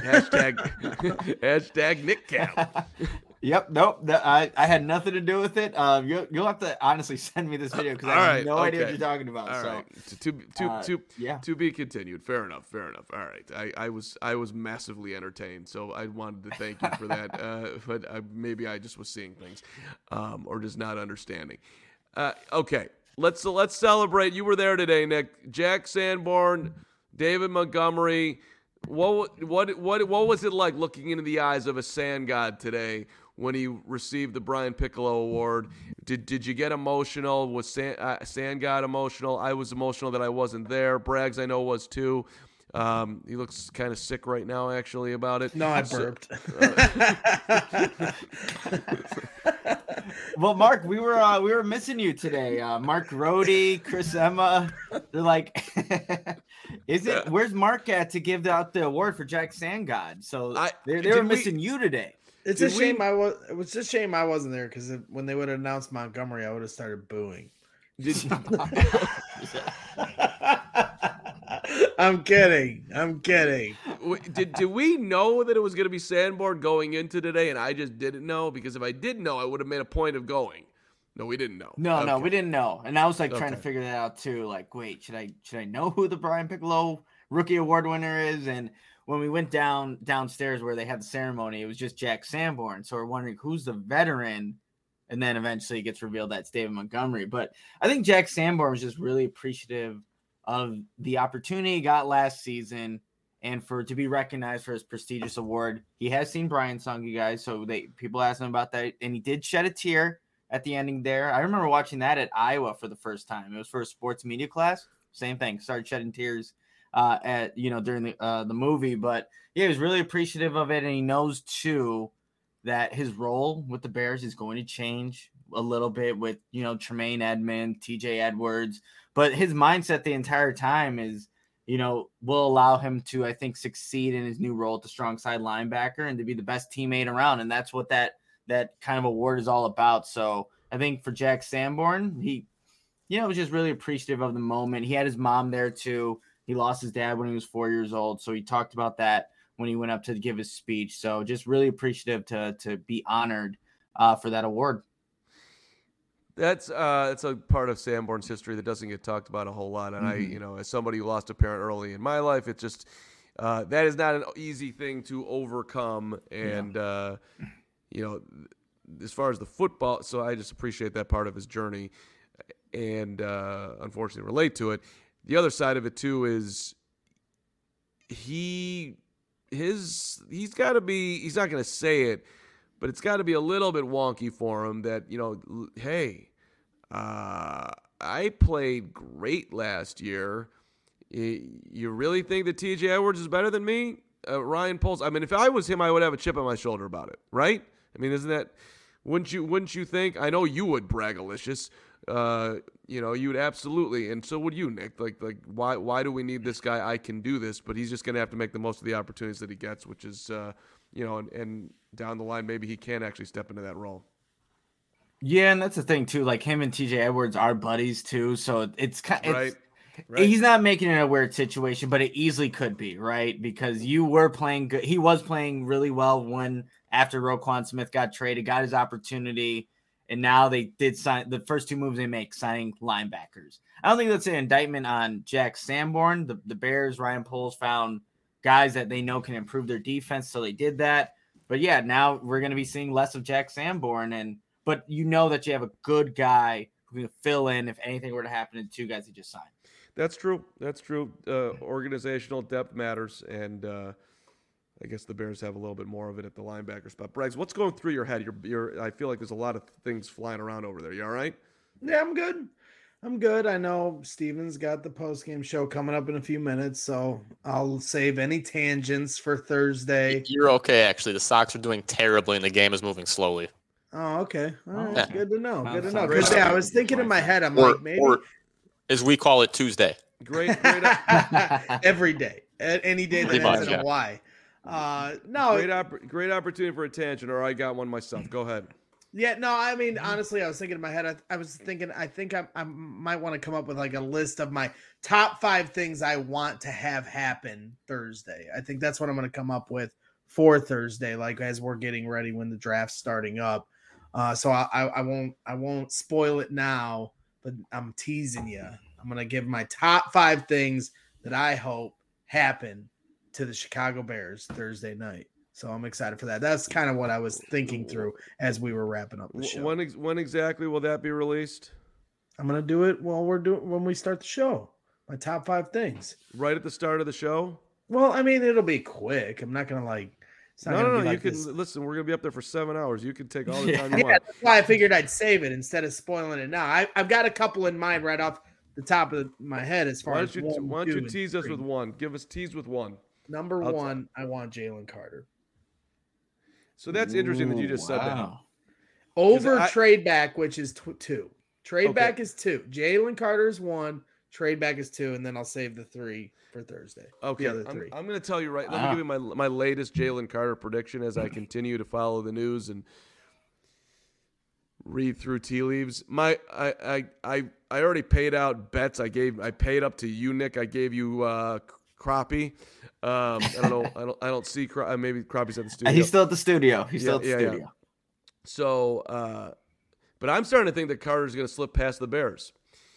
Speaker 1: Hashtag Nick Cap.
Speaker 4: Yep. Nope. I had nothing to do with it. You'll have to honestly send me this video because I have no idea what you're talking about.
Speaker 1: All right. To be continued. Fair enough. All right. I was massively entertained, so I wanted to thank you for that. But maybe I just was seeing things, or just not understanding. Okay. Let's celebrate. You were there today, Nick. Jack Sanborn, David Montgomery. What was it like looking into the eyes of a sand god today when he received the Brian Piccolo Award? Did you get emotional? Was Sand God emotional? I was emotional that I wasn't there. Braggs, I know, was too. He looks kind of sick right now, actually, about it.
Speaker 3: No, I burped.
Speaker 4: Well, Mark, we were missing you today. Mark Rohde, Chris Emma. They're like, where's Mark at to give out the award for Jack Sand God? So they were missing you today.
Speaker 3: It's a shame I wasn't there because when they would have announced Montgomery, I would have started booing. I'm kidding.
Speaker 1: Did we know that it was going to be Sanborn going into today, and I just didn't know? Because if I did know, I would have made a point of going. No, we didn't know.
Speaker 4: No, we didn't know. And I was like trying to figure that out too. Like, wait, should I know who the Brian Piccolo Rookie Award winner is? And when we went downstairs where they had the ceremony, it was just Jack Sanborn. So we're wondering who's the veteran. And then eventually it gets revealed that's David Montgomery. But I think Jack Sanborn was just really appreciative of the opportunity he got last season and to be recognized for his prestigious award. He has seen Brian Song, you guys, so people asked him about that, and he did shed a tear at the ending there. I remember watching that at Iowa for the first time. It was for a sports media class. Same thing. Started shedding tears during the movie. But yeah, he was really appreciative of it, and he knows too that his role with the Bears is going to change a little bit with Tremaine Edmonds, TJ Edwards. But his mindset the entire time is, will allow him to, I think, succeed in his new role at the strong side linebacker and to be the best teammate around. And that's what that kind of award is all about. So I think for Jack Sanborn, he, was just really appreciative of the moment. He had his mom there too. He lost his dad when he was 4 years old. So he talked about that when he went up to give his speech. So just really appreciative to be honored for that award.
Speaker 1: That's it's a part of Sanborn's history that doesn't get talked about a whole lot. And I, as somebody who lost a parent early in my life, it's just that is not an easy thing to overcome. And as far as the football, so I just appreciate that part of his journey, and unfortunately relate to it. The other side of it too is he's got to be. He's not going to say it, but it's got to be a little bit wonky for him that, hey, I played great last year. You really think that TJ Edwards is better than me? Ryan Poles. I mean, if I was him, I would have a chip on my shoulder about it, right? I mean, wouldn't you think? I know you would, Bragalicious. You would absolutely, and so would you, Nick. Like why do we need this guy? I can do this, but he's just going to have to make the most of the opportunities that he gets, which is, and down the line, maybe he can actually step into that role.
Speaker 4: Yeah, and that's the thing too. Like him and TJ Edwards are buddies too, so it's kind of
Speaker 1: right.
Speaker 4: He's not making it a weird situation, but it easily could be, right? Because you were playing good. He was playing really well after Roquan Smith got traded, got his opportunity, and now they did sign the first two moves they make, signing linebackers. I don't think that's an indictment on Jack Sanborn. The Bears, Ryan Poles found guys that they know can improve their defense, so they did that. But yeah, now we're going to be seeing less of Jack Sanborn, but you know that you have a good guy who can fill in if anything were to happen to the two guys he just signed.
Speaker 1: That's true. Organizational depth matters, and I guess the Bears have a little bit more of it at the linebacker spot. Braggs, what's going through your head? I feel like there's a lot of things flying around over there. You all right?
Speaker 3: Yeah, I'm good. I know Steven's got the post-game show coming up in a few minutes, so I'll save any tangents for Thursday.
Speaker 5: You're okay, actually. The Sox are doing terribly, and the game is moving slowly.
Speaker 3: Oh, okay. All right.
Speaker 5: Yeah.
Speaker 3: Good to know. Good to know. Because I was thinking in my head, maybe.
Speaker 5: Or as we call it, Tuesday.
Speaker 1: Great.
Speaker 3: Every day. Any day that ends in a Y. No,
Speaker 1: Great opportunity for a tangent, or I got one myself. Go ahead.
Speaker 3: yeah, no. I mean, honestly, I was thinking in my head. I was thinking. I think I might want to come up with like a list of my top 5 things I want to have happen Thursday. I think that's what I'm going to come up with for Thursday. Like as we're getting ready when the draft's starting up. So I won't spoil it now, but I'm teasing you. I'm going to give my top 5 things that I hope happen to the Chicago Bears Thursday night. So I'm excited for that. That's kind of what I was thinking through as we were wrapping up the show.
Speaker 1: When exactly will that be released?
Speaker 3: I'm going to do it when we start the show. My top 5 things.
Speaker 1: Right at the start of the show?
Speaker 3: Well, I mean, it'll be quick. I'm not going to like.
Speaker 1: No. You can listen. We're gonna be up there for 7 hours. You can take all the time you want.
Speaker 3: That's why I figured I'd save it instead of spoiling it now. I've got a couple in mind right off the top of my head as far as
Speaker 1: why don't you tease us with one? Tease with one.
Speaker 3: Number 1, I want Jalen Carter.
Speaker 1: So that's interesting that you just said that.
Speaker 3: Over trade back, which is 2. Trade back is 2. Jalen Carter is 1. Trade back is 2, and then I'll save the 3 for Thursday.
Speaker 1: Okay,
Speaker 3: the other 3.
Speaker 1: I'm going to tell you right. Let me give you my latest Jalen Carter prediction as I continue to follow the news and read through tea leaves. I already paid out bets. I paid up to you, Nick. I gave you Crappie. I don't know. I don't see maybe Crappie's at the studio.
Speaker 4: He's still at the studio. Still at the studio.
Speaker 1: Yeah. So, but I'm starting to think that Carter's going to slip past the Bears.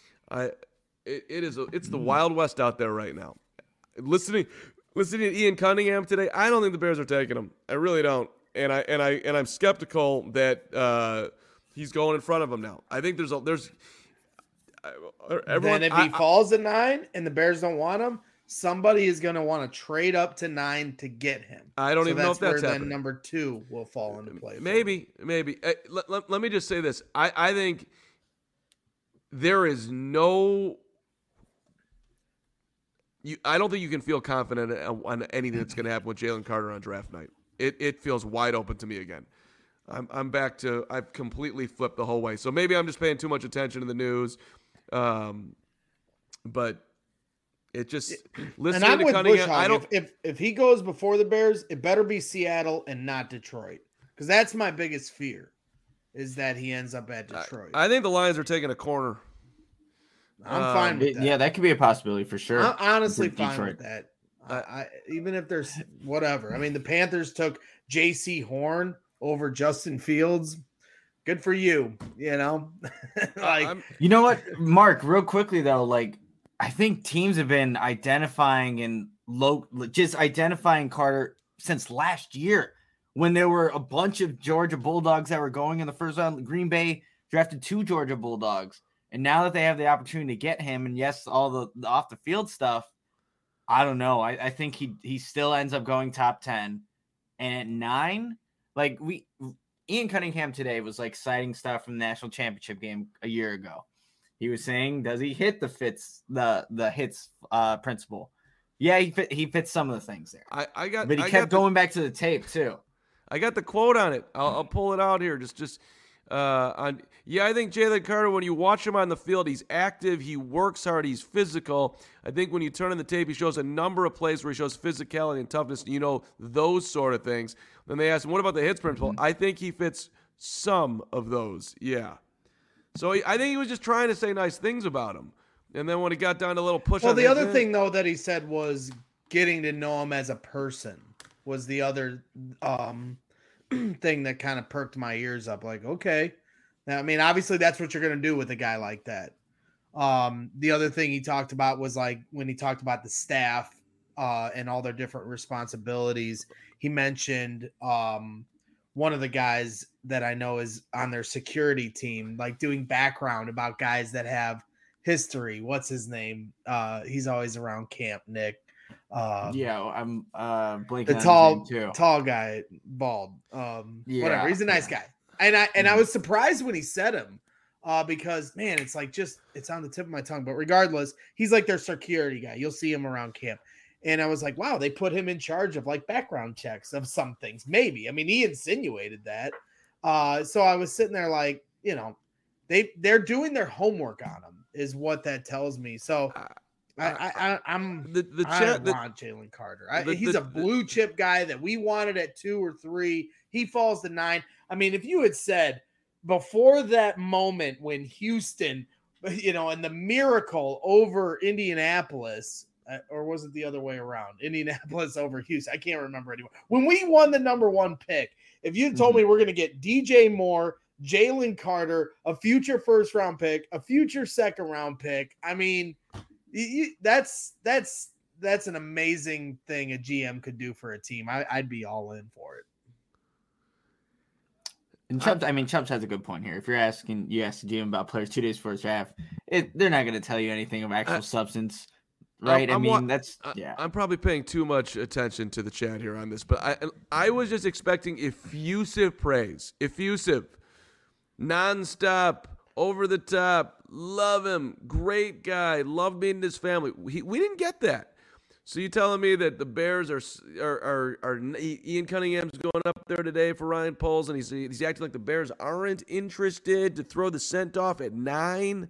Speaker 1: It's the Wild West out there right now. Listening to Ian Cunningham today, I don't think the Bears are taking him. I really don't, and I'm skeptical that he's going in front of him now. I think there's everyone.
Speaker 3: Then if he falls at 9 and the Bears don't want him, somebody is going to want to trade up to 9 to get him.
Speaker 1: I don't even know if that's happening.
Speaker 3: Then number 2 will fall into play.
Speaker 1: Maybe. Let me just say this. I think there is no. I don't think you can feel confident on anything that's going to happen with Jalen Carter on draft night. It feels wide open to me again. I'm back to I've completely flipped the whole way. So maybe I'm just paying too much attention to the news, but it just listening
Speaker 3: and I'm
Speaker 1: to
Speaker 3: with
Speaker 1: Cunningham.
Speaker 3: Bushhog.
Speaker 1: I don't.
Speaker 3: If he goes before the Bears, it better be Seattle and not Detroit, because that's my biggest fear, is that he ends up at Detroit.
Speaker 1: I think the Lions are taking a corner.
Speaker 3: I'm fine with that.
Speaker 4: Yeah, that could be a possibility for sure.
Speaker 3: I'm honestly fine with that. Even if there's whatever. I mean, the Panthers took J.C. Horn over Justin Fields. Good for you. You know,
Speaker 4: you know what, Mark? Real quickly though, like I think teams have been identifying identifying Carter since last year when there were a bunch of Georgia Bulldogs that were going in the first round. Green Bay drafted 2 Georgia Bulldogs. And now that they have the opportunity to get him, and yes, all the off the field stuff, I don't know. I think he still ends up going top 10. And at 9, like Ian Cunningham today was like citing stuff from the national championship game a year ago. He was saying, does he hit the hits principle? Yeah, he fits some of the things there. But he kept going back to the tape too.
Speaker 1: I got the quote on it. I'll pull it out here. I think Jalen Carter, when you watch him on the field, he's active, he works hard, he's physical. I think when you turn on the tape, he shows a number of plays where he shows physicality and toughness, those sort of things. Then they asked him, what about the hits principle? I think he fits some of those, yeah. So I think he was just trying to say nice things about him. And then when he got down to a little push
Speaker 3: the other thing, though, that he said was getting to know him as a person was the other thing that kind of perked my ears up. Like, okay. Now, I mean, obviously that's what you're going to do with a guy like that. The other thing he talked about was like when he talked about the staff and all their different responsibilities, he mentioned one of the guys that I know is on their security team, like doing background about guys that have history. What's his name? He's always around camp, Nick.
Speaker 4: I'm blanking
Speaker 3: the
Speaker 4: on his name too.
Speaker 3: Tall guy, bald. Whatever. He's a nice guy. And I was surprised when he said him, because man, it's like it's on the tip of my tongue. But regardless, he's like their security guy. You'll see him around camp. And I was like, wow, they put him in charge of like background checks of some things. Maybe. I mean, he insinuated that. So I was sitting there like, they're doing their homework on him is what that tells me. So I'm
Speaker 1: the
Speaker 3: I
Speaker 1: chat.
Speaker 3: want Jalen Carter.
Speaker 1: the-
Speaker 3: He's
Speaker 1: the-
Speaker 3: a blue chip guy that we wanted at 2 or 3. He falls to 9. I mean, if you had said before that moment when Houston, and the miracle over Indianapolis, or was it the other way around? Indianapolis over Houston. I can't remember anymore. When we won the number 1 pick, if you told me we're going to get DJ Moore, Jalen Carter, a future first round pick, a future second round pick, I mean, that's an amazing thing a GM could do for a team. I'd be all in for it.
Speaker 4: And Chubbs has a good point here. If you ask the GM about players 2 days before his draft, they're not going to tell you anything of actual substance, right?
Speaker 1: I'm probably paying too much attention to the chat here on this, but I was just expecting effusive praise, nonstop, over the top, love him, great guy, love meeting his family. We didn't get that. So you telling me that the Bears are Ian Cunningham's going up there today for Ryan Poles, and he's acting like the Bears aren't interested to throw the scent off at 9?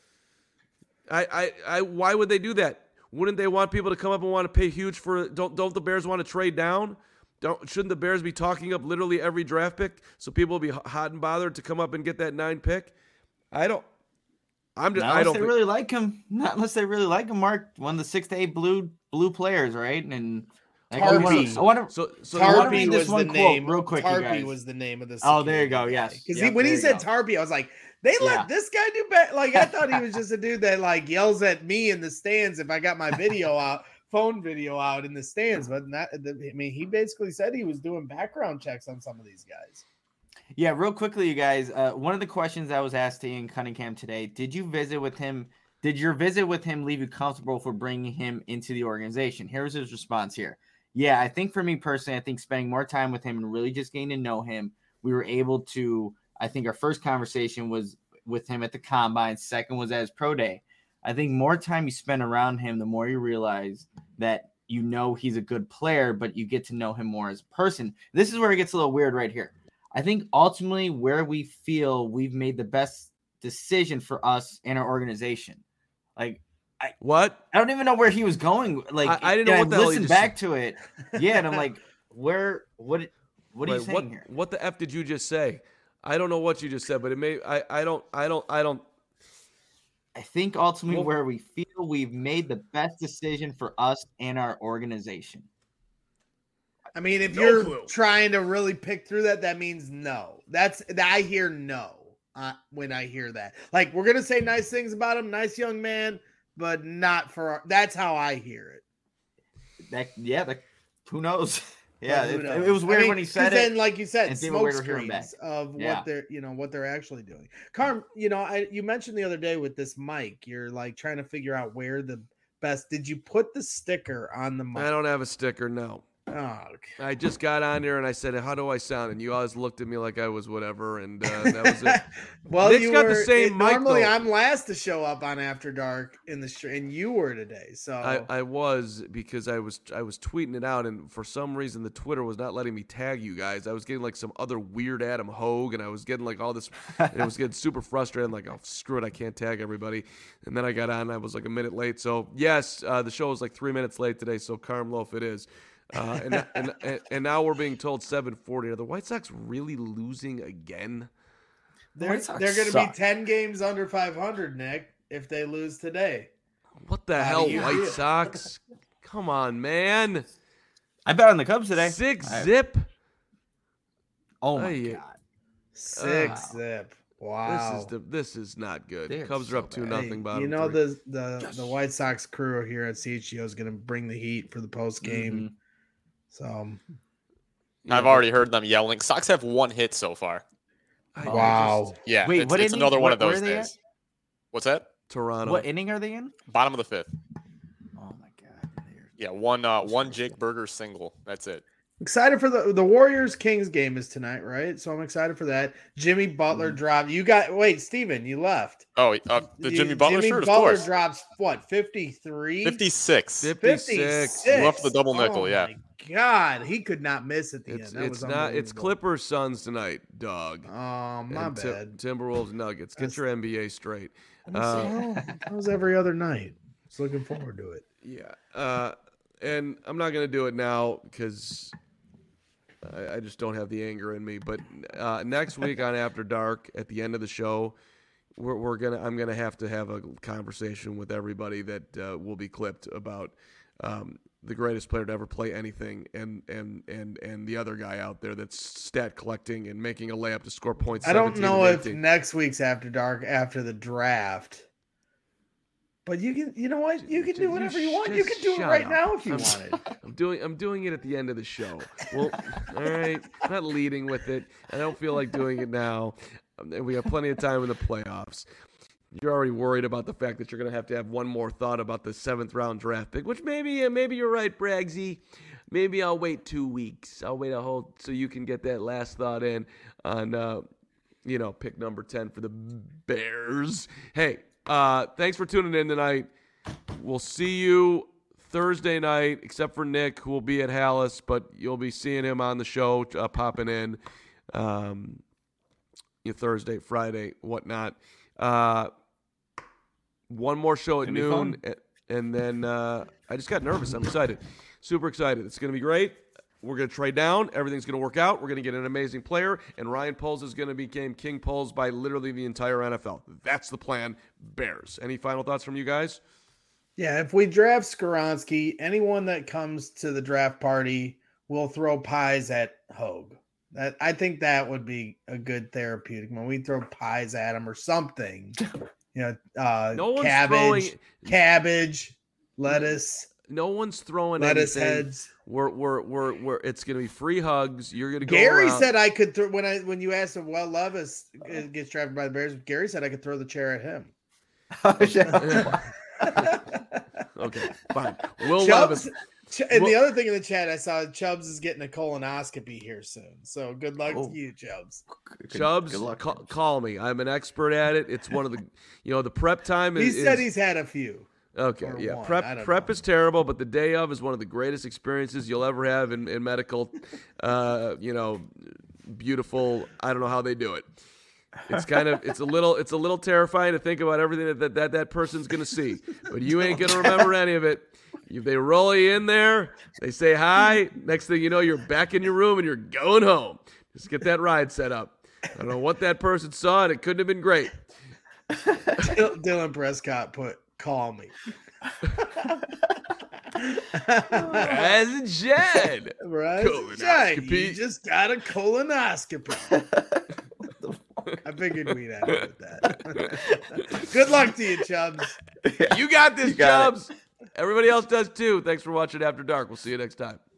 Speaker 1: Why would they do that? Wouldn't they want people to come up and want to pay huge for? Don't the Bears want to trade down? Shouldn't the Bears be talking up literally every draft pick so people will be hot and bothered to come up and get that 9 pick? Not unless they really like him. Mark, one of the 6 to 8 blue players, right? And
Speaker 3: Tarpey.
Speaker 4: I want to
Speaker 3: Tarpey
Speaker 4: read this
Speaker 3: was
Speaker 4: one
Speaker 3: the
Speaker 4: quote
Speaker 3: name.
Speaker 4: real quick.
Speaker 3: Tarpey was the name of the.
Speaker 4: Oh, there you go. Yes,
Speaker 3: because when he said Tarpey, I was like, they let this guy do bad. Like I thought he was just a dude that like yells at me in the stands if I got my phone video out in the stands. But he basically said he was doing background checks on some of these guys.
Speaker 4: Yeah, real quickly, you guys. One of the questions I was asked to Ian Cunningham today: did you visit with him? Did your visit with him leave you comfortable for bringing him into the organization? Here's his response here. Yeah, I think for me personally, I think spending more time with him and really just getting to know him, we were able to. I think our first conversation was with him at the combine. Second was at his pro day. I think more time you spend around him, the more you realize that he's a good player, but you get to know him more as a person. This is where it gets a little weird right here. I think ultimately where we feel we've made the best decision for us and our organization. Like, I don't even know where he was going. Like,
Speaker 1: I didn't know what the hell he
Speaker 4: listened
Speaker 1: just
Speaker 4: back to it. Yeah, and I'm like, what are you saying here?
Speaker 1: What the F did you just say? I don't know what you just said, but it may. I don't.
Speaker 4: I think ultimately where we feel we've made the best decision for us and our organization.
Speaker 3: I mean, if you're trying to really pick through that means no. I hear no when I hear that. Like, we're gonna say nice things about him, nice young man, but not for. That's how I hear it.
Speaker 4: Who knows? Yeah, it was weird when he said it.
Speaker 3: Then, like you said, smoke screens of what they're actually doing. Carm, you mentioned the other day with this mic, you're like trying to figure out where the best. Did you put the sticker on the mic?
Speaker 1: I don't have a sticker. No.
Speaker 3: Oh, okay.
Speaker 1: I just got on there and I said, "How do I sound?" And you always looked at me like I was whatever, and that was it.
Speaker 3: Well,
Speaker 1: Nick's got the same mic.
Speaker 3: Normally, I'm last to show up on After Dark in the street, and you were today. So
Speaker 1: I was because I was tweeting it out, and for some reason the Twitter was not letting me tag you guys. I was getting like some other weird Adam Hogue, and I was getting like all this, and it was getting super frustrated. I'm like, oh screw it, I can't tag everybody. And then I got on, and I was like a minute late. So yes, the show was like 3 minutes late today. So Carm Loaf it is. And now we're being told 7:40. Are the White Sox really losing again?
Speaker 3: They're going to be 10 games under 500, Nick, if they lose today.
Speaker 1: What the hell, White Sox? Come on, man.
Speaker 4: I bet on the Cubs today.
Speaker 1: 6-zip.
Speaker 4: Oh my God.
Speaker 3: 6-zip. Wow.
Speaker 1: This is not good.
Speaker 4: They're
Speaker 1: Cubs are up 2-0. Bottom
Speaker 3: the White Sox crew here at CHGO is going to bring the heat for the post game.
Speaker 4: Mm-hmm.
Speaker 3: So
Speaker 5: I've already heard them yelling. Sox have 1 hit so far.
Speaker 3: Wow.
Speaker 5: Yeah.
Speaker 4: Wait,
Speaker 5: it's another one of those days. What's that?
Speaker 1: Toronto.
Speaker 4: What inning are they in?
Speaker 5: Bottom of the 5th.
Speaker 4: Oh my God.
Speaker 5: Yeah, one Jake Berger single. That's it.
Speaker 3: Excited for the Warriors Kings game is tonight, right? So I'm excited for that. Jimmy Butler dropped. Steven, you left.
Speaker 5: Oh, the Jimmy Butler shirt,
Speaker 3: Butler
Speaker 5: of course.
Speaker 3: Drops what? 53?
Speaker 5: 56.
Speaker 3: 56.
Speaker 5: Left the double nickel, yeah.
Speaker 3: My God, he could not miss at the end.
Speaker 1: It's not. It's Clippers Suns tonight, dog.
Speaker 3: Oh, my bad.
Speaker 1: Timberwolves Nuggets. Get your NBA straight.
Speaker 3: That was every other night. Just looking forward to it.
Speaker 1: Yeah. And I'm not going to do it now because I just don't have the anger in me. But next week on After Dark, at the end of the show, I'm gonna have to have a conversation with everybody that will be clipped about the greatest player to ever play anything, and the other guy out there that's stat collecting and making a layup to score points.
Speaker 3: I don't know if
Speaker 1: 18.
Speaker 3: next week's After Dark after the draft, but you can. You know what? You can do whatever you want. You can do it right now if you wanted.
Speaker 1: I'm doing it at the end of the show. Well, all right. I'm not leading with it. I don't feel like doing it now. We have plenty of time in the playoffs. You're already worried about the fact that you're going to have one more thought about the 7th round draft pick, which maybe you're right, Bragsy. Maybe I'll wait 2 weeks. I'll wait a whole so you can get that last thought in on pick number 10 for the Bears. Hey, thanks for tuning in tonight. We'll see you Thursday night, except for Nick, who will be at Hallis, but you'll be seeing him on the show popping in. Thursday, Friday, whatnot. One more show at noon, and then I just got nervous. I'm excited. Super excited. It's going to be great. We're going to trade down. Everything's going to work out. We're going to get an amazing player, and Ryan Poles is going to become King Poles by literally the entire NFL. That's the plan. Bears. Any final thoughts from you guys?
Speaker 3: Yeah, if we draft Skoronski, anyone that comes to the draft party will throw pies at Hogue. I think that would be a good therapeutic when we throw pies at him or something. No cabbage, lettuce.
Speaker 1: No one's throwing
Speaker 3: lettuce
Speaker 1: anything.
Speaker 3: Heads.
Speaker 1: We're it's gonna be free hugs. You're gonna go.
Speaker 3: Gary
Speaker 1: around.
Speaker 3: said I could throw when you asked him. Well, Levis gets drafted by the Bears. Gary said I could throw the chair at him.
Speaker 1: Okay, fine. Will
Speaker 3: Chubbs,
Speaker 1: Levis.
Speaker 3: And the other thing in the chat, I saw Chubbs is getting a colonoscopy here soon. So good luck to you, Chubbs.
Speaker 1: Chubbs, call me. I'm an expert at it. It's one of the, the prep time.
Speaker 3: He said he's had a few.
Speaker 1: Okay, yeah. Prep is terrible, but the day of is one of the greatest experiences you'll ever have in medical. Beautiful. I don't know how they do it. It's a little terrifying to think about everything that person's gonna see, but you ain't gonna remember any of it. They roll you in there, they say hi. Next thing you know, you're back in your room and you're going home. Just get that ride set up. I don't know what that person saw, and it couldn't have been great.
Speaker 3: Dylan Prescott put, "Call me."
Speaker 1: As a Jed.
Speaker 3: Right. You just got a colonoscopy. I figured we'd end with that. Good luck to you, Chubbs.
Speaker 1: You got this, Chubbs. Everybody else does too. Thanks for watching After Dark. We'll see you next time.